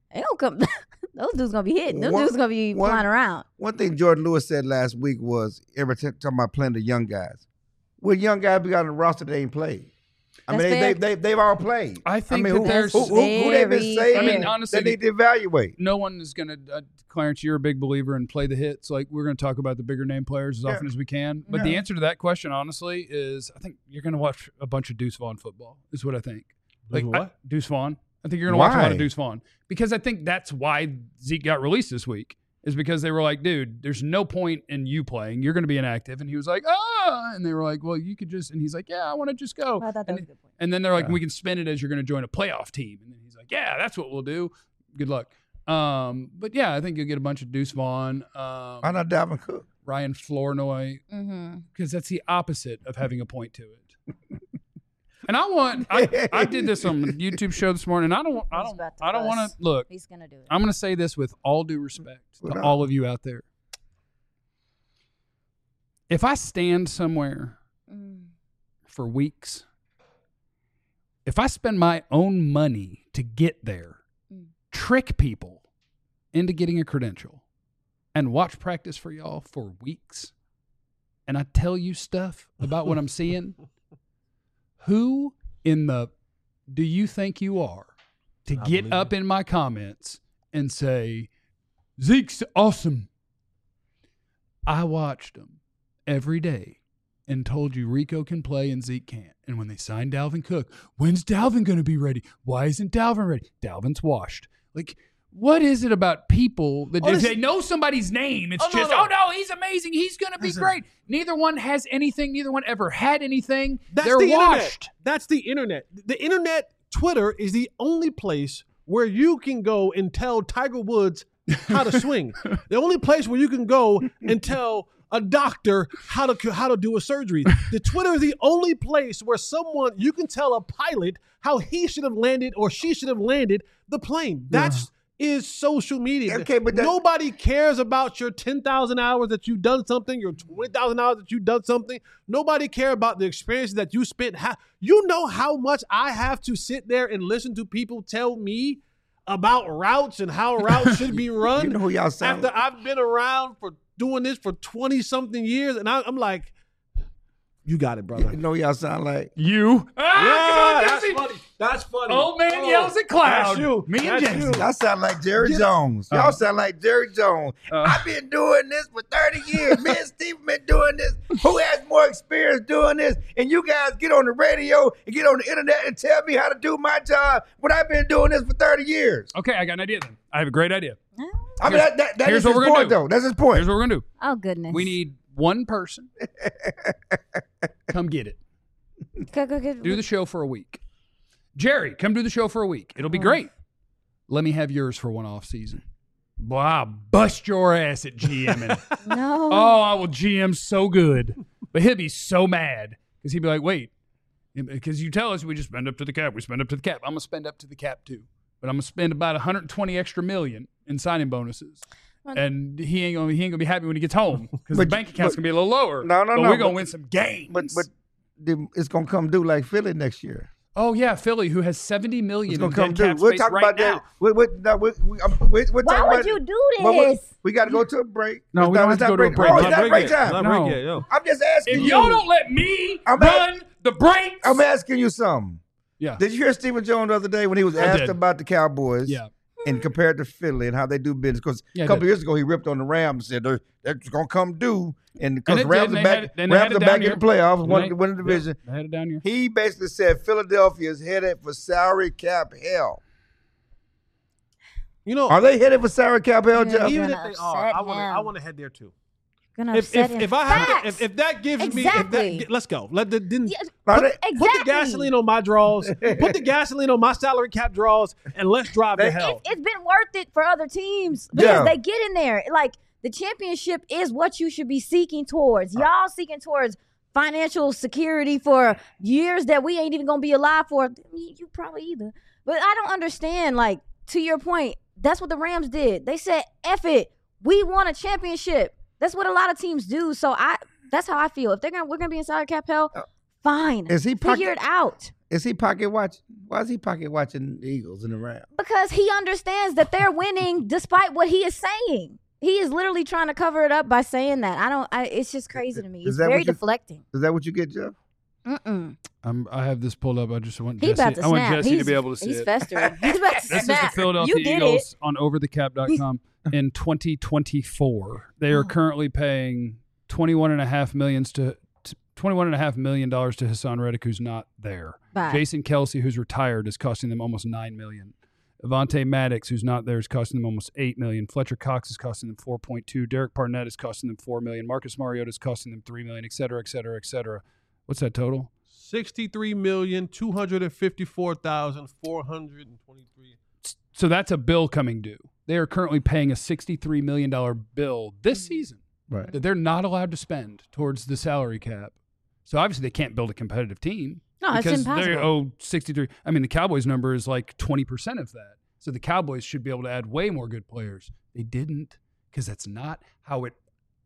They don't come. Those dudes gonna be hitting. Those dudes gonna be flying around. One thing Jordan Lewis said last week was, every time talking about playing the young guys. What young guys we got on the roster that ain't played? I mean, they've all played. I think who they've been saying? I mean, honestly, they need to evaluate. No one is going to, Clarence, you're a big believer in play the hits. Like, we're going to talk about the bigger name players as often as we can. But the answer to that question, honestly, is I think you're going to watch a bunch of Deuce Vaughn football, is what I think. Like, what? Deuce Vaughn. I think you're going to watch a lot of Deuce Vaughn. Because I think that's why Zeke got released this week, is because they were like, dude, there's no point in you playing. You're going to be inactive. And he was like, and they were like, well, you could just, and he's like, yeah, I want to just go. I thought that was a good point. And then they're like, we can spin it as you're going to join a playoff team. And then he's like, yeah, that's what we'll do. Good luck. But yeah, I think you'll get a bunch of Deuce Vaughn. Why not Dalvin Cook? Ryan Flournoy. Because that's the opposite of having a point to it. And I did this on the YouTube show this morning. I don't want to look. He's going to do it. I'm going to say this with all due respect to all of you out there. If I stand somewhere for weeks, if I spend my own money to get there, trick people into getting a credential, and watch practice for y'all for weeks, and I tell you stuff about what I'm seeing, who in the do you think you are to get up in my comments and say, Zeke's awesome? I watched him every day and told you Rico can play and Zeke can't. And when they signed Dalvin Cook, when's Dalvin going to be ready? Why isn't Dalvin ready? Dalvin's washed. Like, what is it about people that if they know somebody's name, it's no, he's amazing. He's going to be great. Neither one has anything. Neither one ever had anything. They're washed. That's the internet. The internet, Twitter, is the only place where you can go and tell Tiger Woods how to swing. The only place where you can go and tell a doctor how to do a surgery. The Twitter is the only place where you can tell a pilot how he should have landed or she should have landed the plane. That's is social media. Okay, but nobody cares about your 10,000 hours that you've done something, your 20,000 hours that you've done something. Nobody cares about the experiences that you spent. You know how much I have to sit there and listen to people tell me about routes and how routes should be run. You know who y'all sound after I've been around for doing this for 20-something years, and I'm like, you got it, brother. You know y'all sound like you. That's funny. That's funny. Old man yells at cloud. That's you. Me and Jason. y'all sound like Jerry Jones. Y'all sound like Jerry Jones. I've been doing this for 30 years. Me and Steve been doing this. Who has more experience doing this? And you guys get on the radio and get on the internet and tell me how to do my job when I've been doing this for 30 years. Okay, I got an idea then. I have a great idea. I mean, that is his point, though. That's his point. Here's what we're going to do. Oh, goodness. We need one person. Come get it. Do the show for a week. Jerry, come do the show for a week. It'll be great. Let me have yours for one off season. Boy, I'll bust your ass at GMing. No. Oh, I will GM so good. But he'll be so mad because he'd be like, wait, because you tell us we just spend up to the cap. We spend up to the cap. I'm going to spend up to the cap too. But I'm going to spend about $120 extra million in signing bonuses. And he ain't gonna be happy when he gets home because the bank account's gonna be a little lower. No. But we're gonna win some games. But it's gonna come due like Philly next year. Oh yeah, Philly, who has $70 million in dead cap we'll space talk right about now. That. Why would you do this? We got to go to a break. No, we don't have to go to a break. Oh, it's not break time. No. I'm just asking if you. y'all don't let me run the breaks. I'm asking you something. Yeah. Did you hear Stephen Jones the other day when he was asked about the Cowboys? Yeah. And compared to Philly and how they do business. Because a couple years ago, he ripped on the Rams and said they're going to come due. And because Rams are back in the playoffs, won the division. They had it down here. He basically said Philadelphia is headed for salary cap hell. You know, are they headed for salary cap hell, Jeff? Even if they are, I want to head there too. If that gives me, let's go. Put the gasoline on my draws. Put the gasoline on my salary cap draws, and let's drive to hell. It's been worth it for other teams because they get in there. Like the championship is what you should be seeking towards. Y'all seeking towards financial security for years that we ain't even gonna be alive for. You probably either. But I don't understand. Like to your point, that's what the Rams did. They said, "F it, we won a championship." That's what a lot of teams do. So that's how I feel. If we're gonna be in salary cap hell, fine. Figure it out. Is he pocket watching? Why is he pocket watching the Eagles in the round? Because he understands that they're winning despite what he is saying. He is literally trying to cover it up by saying that. It's just crazy to me. It's very deflecting. Is that what you get, Jeff? I have this pulled up. I just want He about Jesse. to I want snap. Jesse to be able to see He's it. festering. He's about to This snap. is the Philadelphia You get Eagles it. on overthecap.com in 2024. They are currently paying $21.5 million to Hassan Reddick, who's not there. Bye. Jason Kelsey, who's retired, is costing them almost $9 million. Avonte Maddox, who's not there, is costing them almost $8 million. Fletcher Cox is costing them $4.2. Derek Barnett is costing them $4 million. Marcus Mariota is costing them $3 million, et cetera, et cetera, et cetera. What's that total? $63,254,423. So that's a bill coming due. They are currently paying a $63 million bill this season Right. that they're not allowed to spend towards the salary cap. So obviously they can't build a competitive team. No, it's because impossible. they owe 63. I mean, the Cowboys number is like 20% of that. So the Cowboys should be able to add way more good players. They didn't, because that's not how it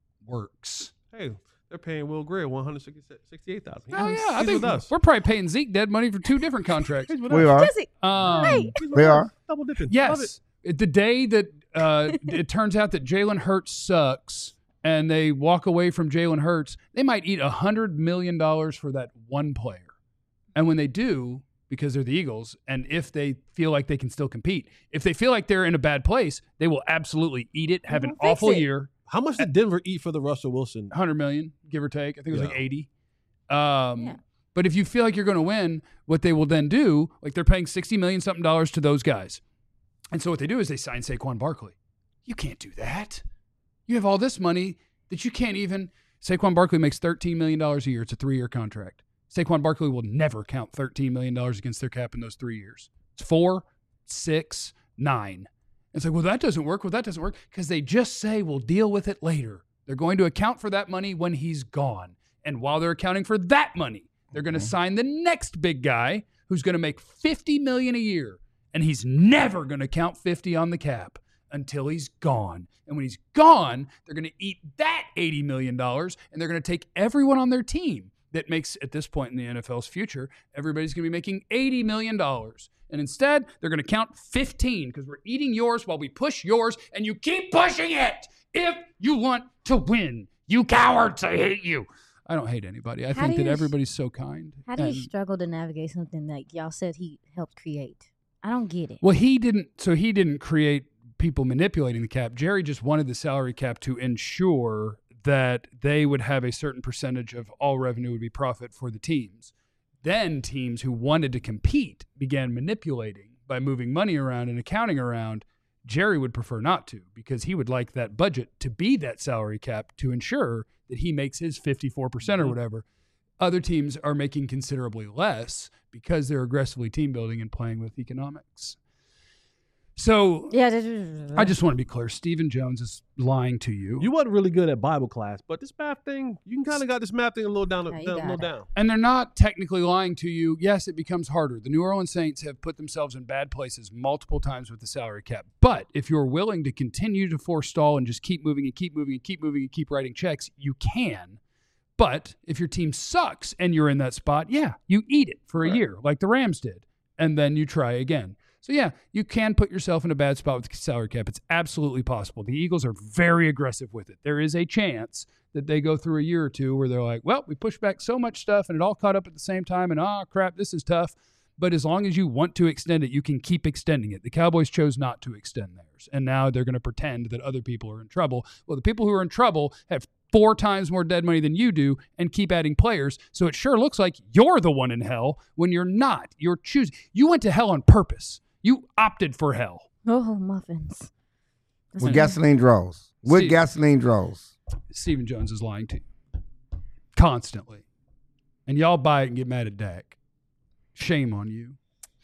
works. Hey, they're paying Will Greer $168,000. Oh yeah, I He's think with us. we're probably paying Zeke dead money for 2 different contracts. He's with We us. are. Jesse, Hey. He's with We us. are. Double dipping. Love it. Yes. The day that it turns out that Jalen Hurts sucks and they walk away from Jalen Hurts, they might eat $100 million for that one player. And when they do, because they're the Eagles, and if they feel like they can still compete, if they feel like they're in a bad place, they will absolutely eat it, have an Fix awful it. year. How much did Denver eat for the Russell Wilson? 100 million, give or take. I think it was Yeah. like 80. Yeah. But if you feel like you're going to win, what they will then do, like they're paying $60 million something to those guys. And so what they do is they sign Saquon Barkley. You can't do that. You have all this money that you can't even. Saquon Barkley makes $13 million a year. It's a 3-year contract. Saquon Barkley will never count $13 million against their cap in those 3 years. It's 4, 6, 9. It's like, well, that doesn't work. Well, that doesn't work because they just say we'll deal with it later. They're going to account for that money when he's gone. And while they're accounting for that money, they're going to sign the next big guy who's going to make $50 million a year. And he's never going to count 50 on the cap until he's gone. And when he's gone, they're going to eat that $80 million and they're going to take everyone on their team that makes, at this point in the NFL's future, everybody's going to be making $80 million. And instead, they're going to count 15 because we're eating yours while we push yours, and you keep pushing it if you want to win. You cowards, I hate you. I don't hate anybody. I think that everybody's so kind. How do you And- struggle to navigate something that y'all said he helped create? I don't get it. Well, he didn't create people manipulating the cap. Jerry just wanted the salary cap to ensure that they would have a certain percentage of all revenue would be profit for the teams. Then teams who wanted to compete began manipulating by moving money around and accounting around. Jerry would prefer not to because he would like that budget to be that salary cap to ensure that he makes his 54% or whatever. Other teams are making considerably less because they're aggressively team building and playing with economics. So Yeah, I just want to be clear. Stephen Jones is lying to you. You wasn't really good at Bible class, but this math thing, you kind of got this math thing a little down, Yeah, you a got little it. down. And they're not technically lying to you. Yes, it becomes harder. The New Orleans Saints have put themselves in bad places multiple times with the salary cap. But if you're willing to continue to forestall and just keep moving and keep moving and keep moving and keep writing checks, you can. But if your team sucks and you're in that spot, yeah, you eat it for a year like the Rams did. And then you try again. So, yeah, you can put yourself in a bad spot with the salary cap. It's absolutely possible. The Eagles are very aggressive with it. There is a chance that they go through a year or two where they're like, well, we pushed back so much stuff and it all caught up at the same time and, crap, this is tough. But as long as you want to extend it, you can keep extending it. The Cowboys chose not to extend theirs. And now they're going to pretend that other people are in trouble. Well, the people who are in trouble have 4 times more dead money than you do and keep adding players. So it sure looks like you're the one in hell when you're not. You're choosing. You went to hell on purpose. You opted for hell. Oh, muffins. With gasoline draws. With Steve. gasoline draws. Stephen Jones is lying to you constantly. And y'all buy it and get mad at Dak. Shame on you.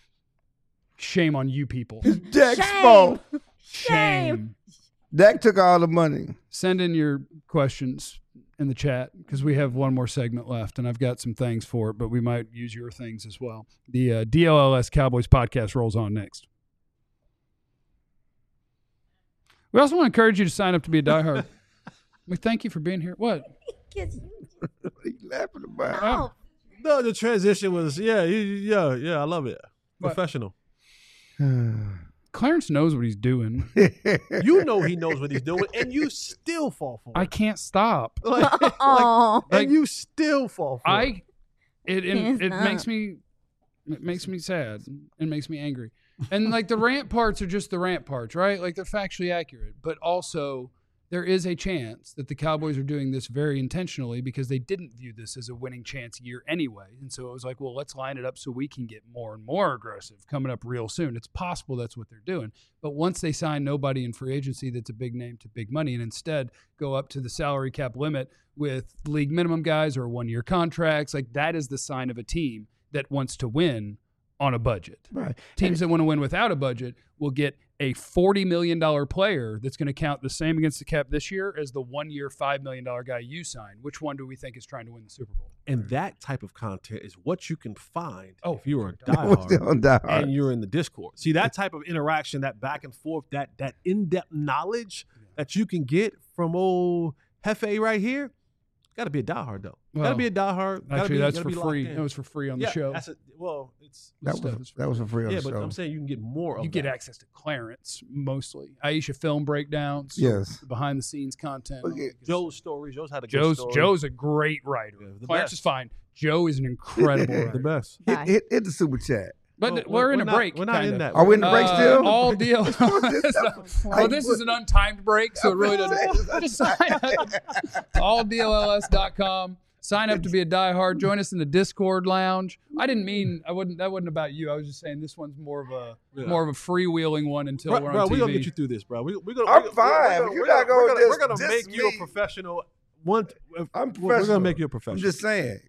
Shame on you people. Dak's Shame. fault. Shame. Dak took all the money. Send in your questions in the chat because we have one more segment left and I've got some things for it, but we might use your things as well. The DLLS Cowboys podcast rolls on next. We also want to encourage you to sign up to be a diehard. We thank you for being here. What? What are you laughing about? Oh, No, the transition was yeah. I love it. What? Professional. Clarence knows what he's doing. You know he knows what he's doing, and you still fall for it. I can't stop. Oh, And you still fall for it. It makes me sad. It makes me angry. And like the rant parts are just the rant parts, right? Like they're factually accurate, but also there is a chance that the Cowboys are doing this very intentionally because they didn't view this as a winning chance year anyway. And so it was like, well, let's line it up so we can get more and more aggressive coming up real soon. It's possible that's what they're doing. But once they sign nobody in free agency that's a big name to big money and instead go up to the salary cap limit with league minimum guys or 1-year contracts, like that is the sign of a team that wants to win on a budget. Right. Teams that want to win without a budget will get a $40 million player that's going to count the same against the cap this year as the 1-year, $5 million guy you signed. Which one do we think is trying to win the Super Bowl? And that type of content is what you can find if you you're a diehard Die hard. and you're in the Discord. See, that type of interaction, that back and forth, that in-depth knowledge that you can get from old Hefe right here, got to be a diehard, though. Got to be a diehard. Actually, that's for free. That was for free on the show. That was for free on the show. Yeah, but I'm saying you can get more of You get that. access to Clarence, mostly. Aisha film breakdowns. Yes. Behind-the-scenes content. Okay. Joe's stories. Joe's had a good story. Joe's a great writer. Yeah, the Clarence best. is fine. Joe is an incredible writer. The best. Bye. Hit the super chat. But Well, we're in a not- break. We're not kinda. in that. Are we in the break still? All deal. Well, this is an untimed break, so it really doesn't. Just sign up to alldlls.com. Sign up to be a diehard. Join us in the Discord lounge. That wasn't about you. I was just saying this one's more of a freewheeling one until we're on Bro, TV. we're gonna get you through this, bro. We're gonna. I'm fine. You're not gonna We're gonna diss make you a me. professional. I'm We're professional. gonna make you a I'm professional. just saying.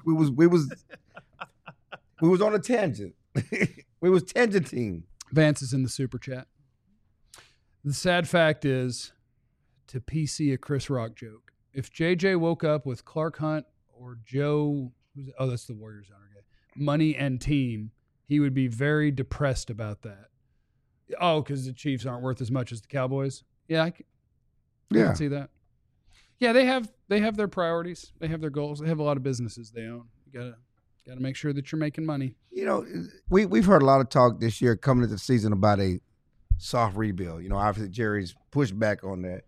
We was on a tangent. We was tangenting. Vance is in the super chat. The sad fact is, to PC a Chris Rock joke, if JJ woke up with Clark Hunt or Joe, that's the Warriors owner guy, money and team, he would be very depressed about that. Oh, because the Chiefs aren't worth as much as the Cowboys. Yeah, I can see that. Yeah, they have their priorities. They have their goals. They have a lot of businesses they own. You gotta make sure that you're making money. You know, we've heard a lot of talk this year coming into the season about a soft rebuild. You know, obviously Jerry's pushed back on that.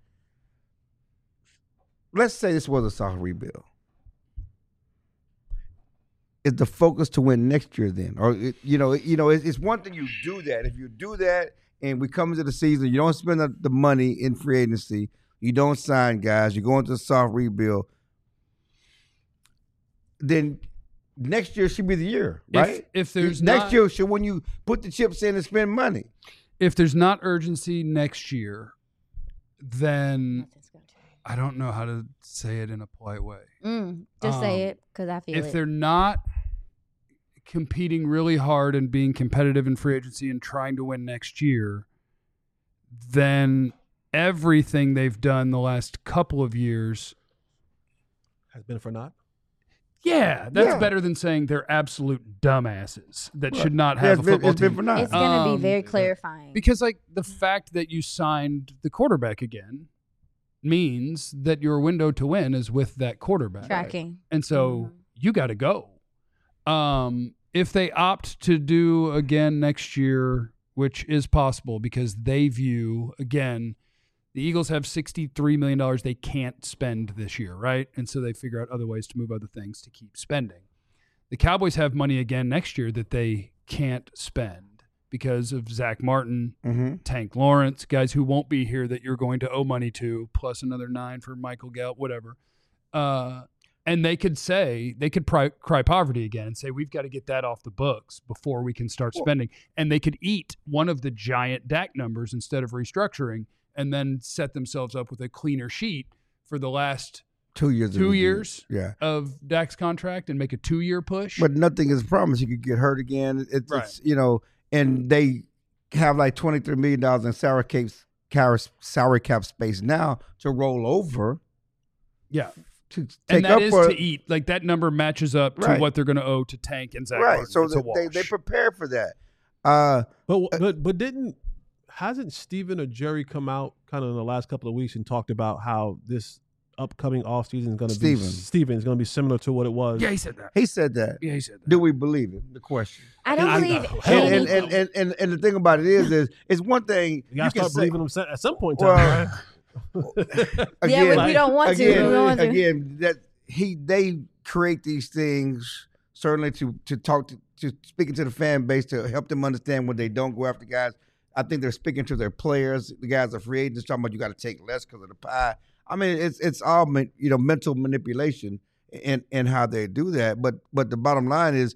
Let's say this was a soft rebuild. Is the focus to win next year then? Or, it's one thing you do that. If you do that and we come into the season, you don't spend the money in free agency, you don't sign guys, you go into a soft rebuild, then next year should be the year, right? If there's next year should when you put the chips in and spend money. If there's not urgency next year, then I don't know how to say it in a polite way. Just say it because I feel if they're not competing really hard and being competitive in free agency and trying to win next year, then everything they've done the last couple of years has been for naught. Yeah, that's better than saying they're absolute dumbasses that should not have a football team. It's going to be very clarifying. Because, like, the fact that you signed the quarterback again means that your window to win is with that quarterback. Tracking. And so you got to go. If they opt to do again next year, which is possible because they view, again, the Eagles have $63 million they can't spend this year, right? And so they figure out other ways to move other things to keep spending. The Cowboys have money again next year that they can't spend because of Zach Martin, Tank Lawrence, guys who won't be here that you're going to owe money to, plus another 9 for Michael Gallup, whatever. And they could cry poverty again and say, we've got to get that off the books before we can start spending. And they could eat one of the giant DAC numbers instead of restructuring and then set themselves up with a cleaner sheet for the last 2 years. Of Dak's contract and make a 2-year push. But nothing is promised. You could get hurt again. It's and they have like $23 million in salary cap space now to roll over. Yeah. To take and that up is for, to eat. Like that number matches up to what they're going to owe to Tank and Zach Martin. So they prepare for that. Hasn't Steven or Jerry come out kind of in the last couple of weeks and talked about how this upcoming offseason is going to Steven. be Steven is going to be similar to what it was. Yeah, he said that. He said that. Yeah, he said that. Do we believe him? The question. I don't believe hell any- no. And the thing about it is it's one thing You got to can start say- believing him at some point in time. Well, Yeah, we don't want to. We don't want to. Again, that they create these things certainly to talk to speaking to the fan base to help them understand when they don't go after guys. I think they're speaking to their players. The guys are free agents talking about you got to take less because of the pie. I mean, it's all mental manipulation in how they do that. But the bottom line is,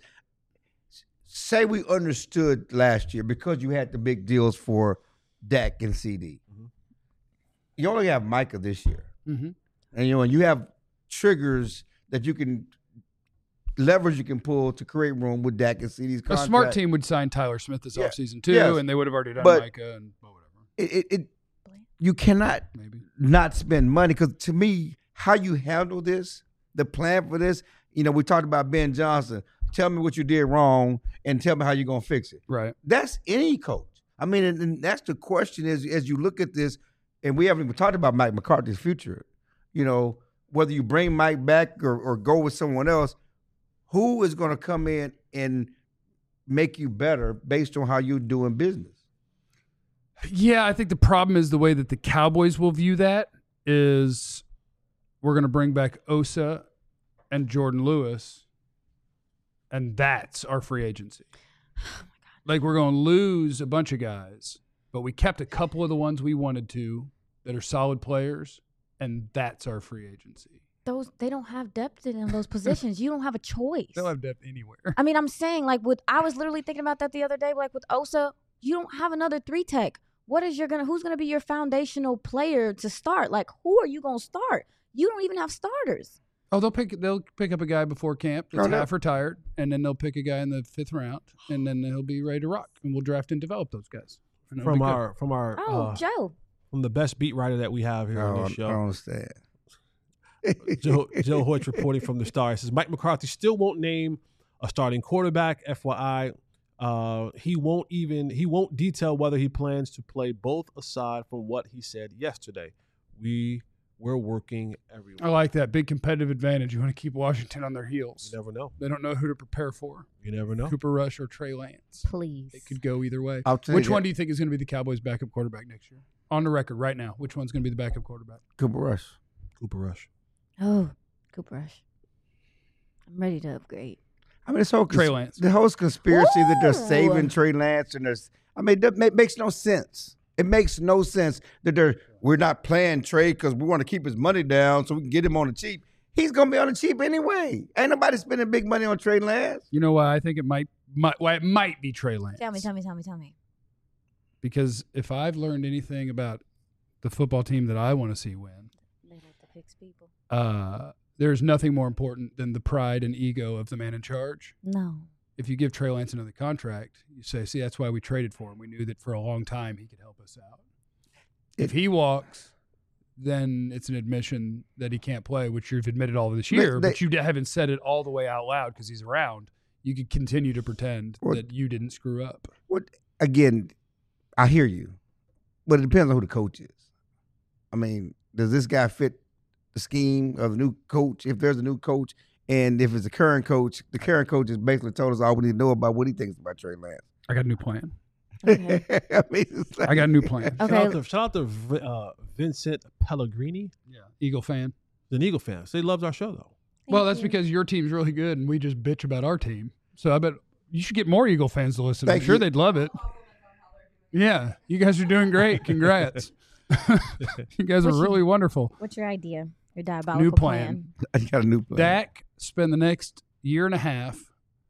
say we understood last year because you had the big deals for Dak and CD. Mhm. You only have Micah this year. Mm-hmm. And and you have triggers that you can levers you can pull to create room with Dak and CD's A contract. smart team would sign Tyler Smith this Yeah. offseason too, Yes. and they would have already done But- Micah and whatever. It you cannot Maybe. not spend money because to me, how you handle this, the plan for this, we talked about Ben Johnson. Tell me what you did wrong and tell me how you're gonna fix it. Right. That's any coach. I mean, and that's the question is as you look at this, and we haven't even talked about Mike McCarthy's future. Whether you bring Mike back or go with someone else, who is going to come in and make you better based on how you're doing business? Yeah, I think the problem is the way that the Cowboys will view that is we're going to bring back Osa and Jordan Lewis, and that's our free agency. Like we're going to lose a bunch of guys, but we kept a couple of the ones we wanted to that are solid players, and that's our free agency. They don't have depth in those positions. You don't have a choice. They'll have depth anywhere. I mean, I'm saying I was literally thinking about that the other day. Like with Osa, you don't have another 3-tech. Who's gonna be your foundational player to start? Like who are you gonna start? You don't even have starters. Oh, they'll pick up a guy before camp that's Oh, no. half retired, and then they'll pick a guy in the 5th round, and then he'll be ready to rock, and we'll draft and develop those guys. And it'll be good. From our Joe. from the best beat writer that we have here on this I show. don't understand. Joe Hoyt reporting from the Star. He says Mike McCarthy still won't name a starting quarterback. FYI, he won't detail whether he plans to play both aside from what he said yesterday. We're working everywhere. I like that big competitive advantage. You want to keep Washington on their heels. You never know. They don't know who to prepare for. You never know. Cooper Rush or Trey Lance. Please. It could go either way. I'll tell Which you one do you think is going to be the Cowboys' backup quarterback next year? On the record right now, which one's going to be the backup quarterback? Cooper Rush. Cooper Rush. Oh, Cooper Rush. I'm ready to upgrade. I mean, Trey Lance. the whole conspiracy that they're Ooh. saving Trey Lance and that makes no sense. It makes no sense that we're not playing Trey because we want to keep his money down so we can get him on the cheap. He's gonna be on the cheap anyway. Ain't nobody spending big money on Trey Lance. You know why I think it might be Trey Lance. Tell me. Because if I've learned anything about the football team that I want to see win, They like to fix people. there's nothing more important than the pride and ego of the man in charge. No. If you give Trey Lance another contract, you say, see, that's why we traded for him. We knew that for a long time he could help us out. If he walks, then it's an admission that he can't play, which you've admitted all of this year, but you haven't said it all the way out loud because he's around. You could continue to pretend that you didn't screw up. Again, I hear you, but it depends on who the coach is. I mean, does this guy fit the scheme of the new coach? If there's a new coach, and if it's the current coach has basically told us all we need to know about what he thinks about Trey Lance. I got a new plan. Okay. I mean, it's like, I got a new plan. Okay. Shout out to Vincent Pellegrini, Yeah. Eagle fan. the Eagle fans. They loved our show though. Well, that's because your team's really good and we just bitch about our team. So I bet you should get more Eagle fans to listen. I'm Thank sure you. they'd love it. Yeah. You guys are doing great. Congrats. You guys are really wonderful. What's your idea? Your diabolical New plan. I got a new plan. Dak spend the next year and a half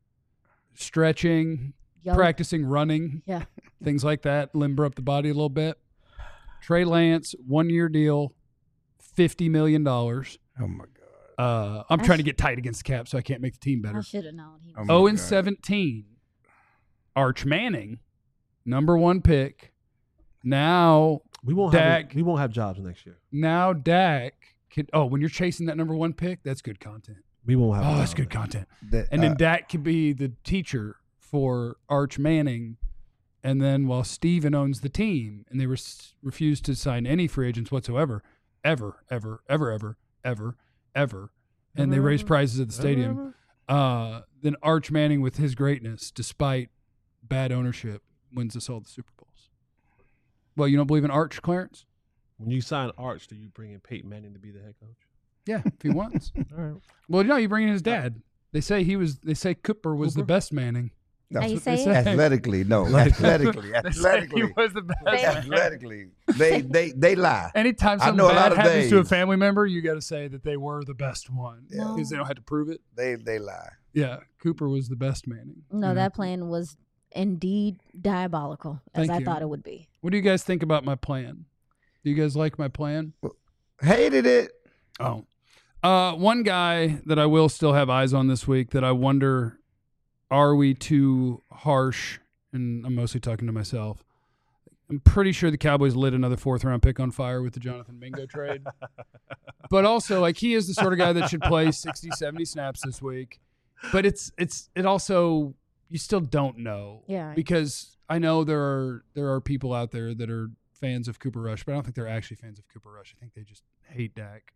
stretching, Yo. practicing running, Yeah. things like that, limber up the body a little bit. Trey Lance, 1-year deal, $50 million. Oh my God. I'm trying to get tight against the cap, so I can't make the team I better. should have known. He Oh was my 0 God. and 17. Arch Manning, number 1 pick. Now We won't Dak. have jobs next year. Now Dak can. Oh, when you're chasing that number 1 pick, that's good content. We won't have. Oh, jobs that's good next year. content. That, And then Dak could be the teacher for Arch Manning. And then while Steven owns the team, and they refuse to sign any free agents whatsoever, ever, ever, and they raise prizes at the stadium, then Arch Manning with his greatness, despite bad ownership, wins us all the Super Bowls. Well, you don't believe in Arch, Clarence? When you sign Arch, do you bring in Peyton Manning to be the head coach? Yeah, if he wants. All right. Well, no, you bring in his dad. They say Cooper was the best Manning. No, How you what they say say. it? athletically, no. Athletically. They say he was the best. Athletically. They lie. Anytime I something know a lot bad of happens to a days. family member, you got to say that they were the best one Yeah. because they don't have to prove it. They lie. Yeah, Cooper was the best Manning. No, you know? that plan was indeed diabolical, as Thank I you. thought it would be. What do you guys think about my plan? Do you guys like my plan? Hated it. Oh. One guy that I will still have eyes on this week that I wonder, are we too harsh? And I'm mostly talking to myself. I'm pretty sure the Cowboys lit another 4th-round pick on fire with the Jonathan Mingo trade. But also, like, he is the sort of guy that should play 60, 70 snaps this week. But it also, you still don't know. Yeah. Because I know there are people out there that are fans of Cooper Rush, but I don't think they're actually fans of Cooper Rush. I think they just hate Dak.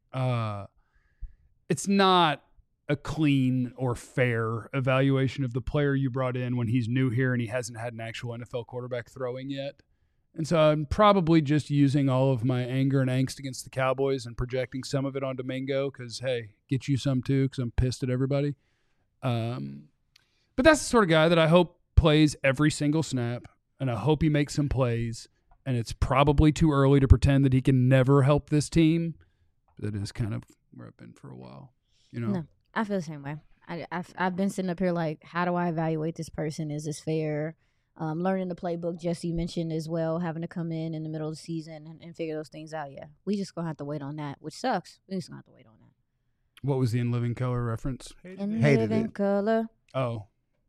It's not a clean or fair evaluation of the player you brought in when he's new here and he hasn't had an actual NFL quarterback throwing yet. And so I'm probably just using all of my anger and angst against the Cowboys and projecting some of it onto Mingo because, hey, get you some too because I'm pissed at everybody. But that's the sort of guy that I hope plays every single snap, and I hope he makes some plays. And it's probably too early to pretend that he can never help this team. But that is kind of where I've been for a while, you know? No, I feel the same way. I've been sitting up here like, how do I evaluate this person? Is this fair? Learning the playbook, Jesse mentioned as well, having to come in the middle of the season and figure those things out. Yeah, we just going to have to wait on that, which sucks. We just going to have to wait on that. What was the In Living Color reference? In Hated living it. color. Oh.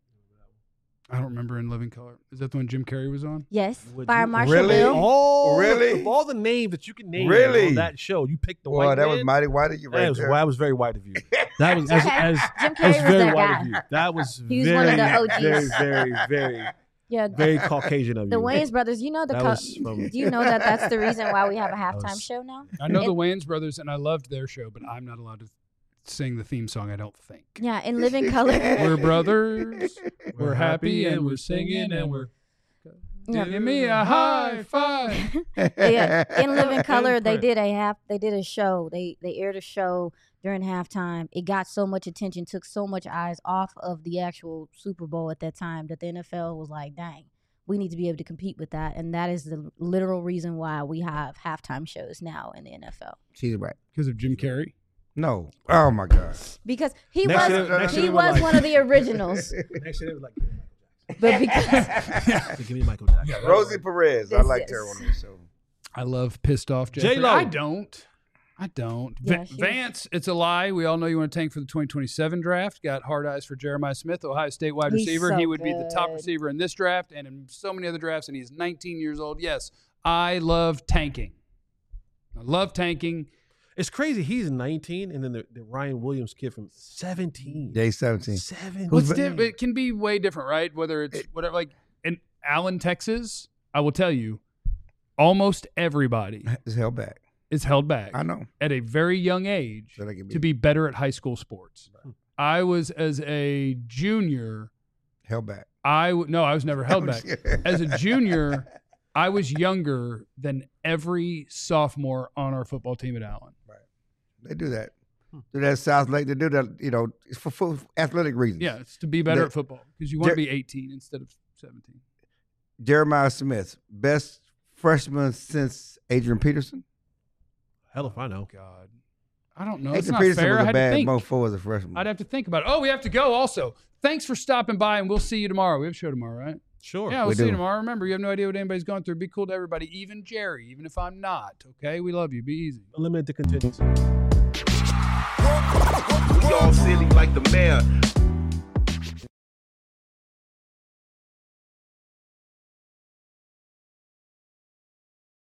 I don't remember In Living Color. Is that the one Jim Carrey was on? Yes, Would Fire you- Marshal Really? Bill. Oh, Really? Of all the names that you can name Really? on that show, you picked the Boy, white that man. was mighty white of you right there. That was very white of you. That was as Jim Carrey as was very that white guy. of you. That was He was very, one of the OGs. very, Yeah, very Caucasian of you. the Wayans brothers. You know That was from- do you know that that's the reason why we have a halftime was- show now? I know In- the Wayans brothers, and I loved their show, but I'm not allowed to sing the theme song, I don't think. Yeah, in living color. We're brothers. We're happy, and we're singing, and we're... Yeah. Give me a high five. Yeah, in living color, they did a show. They aired a show during halftime. It got so much attention, took so much eyes off of the actual Super Bowl at that time that the NFL was like, dang, we need to be able to compete with that. And that is the literal reason why we have halftime shows now in the NFL. She's right. Because of Jim Carrey? No. Oh my God. Because he Next was year- next year he they were was like- one of the originals. Next year they was like, But because give me Michael Jackson. Rosie Perez. I This liked is- her on the show. I love Pissed Off Jeffrey. J-Lo. I don't. Yeah, she- Vance, it's a lie. We all know you want to tank for the 2027 draft. Got hard eyes for Jeremiah Smith, Ohio State wide He's receiver. so He would be the top good. receiver in this draft and in so many other drafts, and he's 19 years old. Yes, I love tanking. I love tanking. It's crazy. He's 19, and then the Ryan Williams kid from 17. Day 17. 17. What's it can be way different, right? Whether it's whatever, like in Allen, Texas, I will tell you, almost everybody It's held back. is held back I know. at a very young age So they can to be better at high school sports. I was, as a junior, held back. I was never held back. As a junior, I was younger than every sophomore on our football team at Allen. They do that. Do that at South Lake. They do that, for athletic reasons. Yeah, it's to be better The- at football because you want to be 18 instead of 17. Jeremiah Smith, best freshman since Adrian Peterson. Hell if I know. God, I don't know. It's Adrian not Peterson fair. I was a had to bad think. mofo as a freshman. I'd have to think about it. Oh, we have to go also. Thanks for stopping by, and we'll see you tomorrow. We have a show tomorrow, right? Sure. Yeah, we'll We see you do. tomorrow. Remember, you have no idea what anybody's going through. Be cool to everybody, even Jerry, even if I'm not. Okay? We love you. Be easy. Eliminate the contingency. We all silly like the mayor.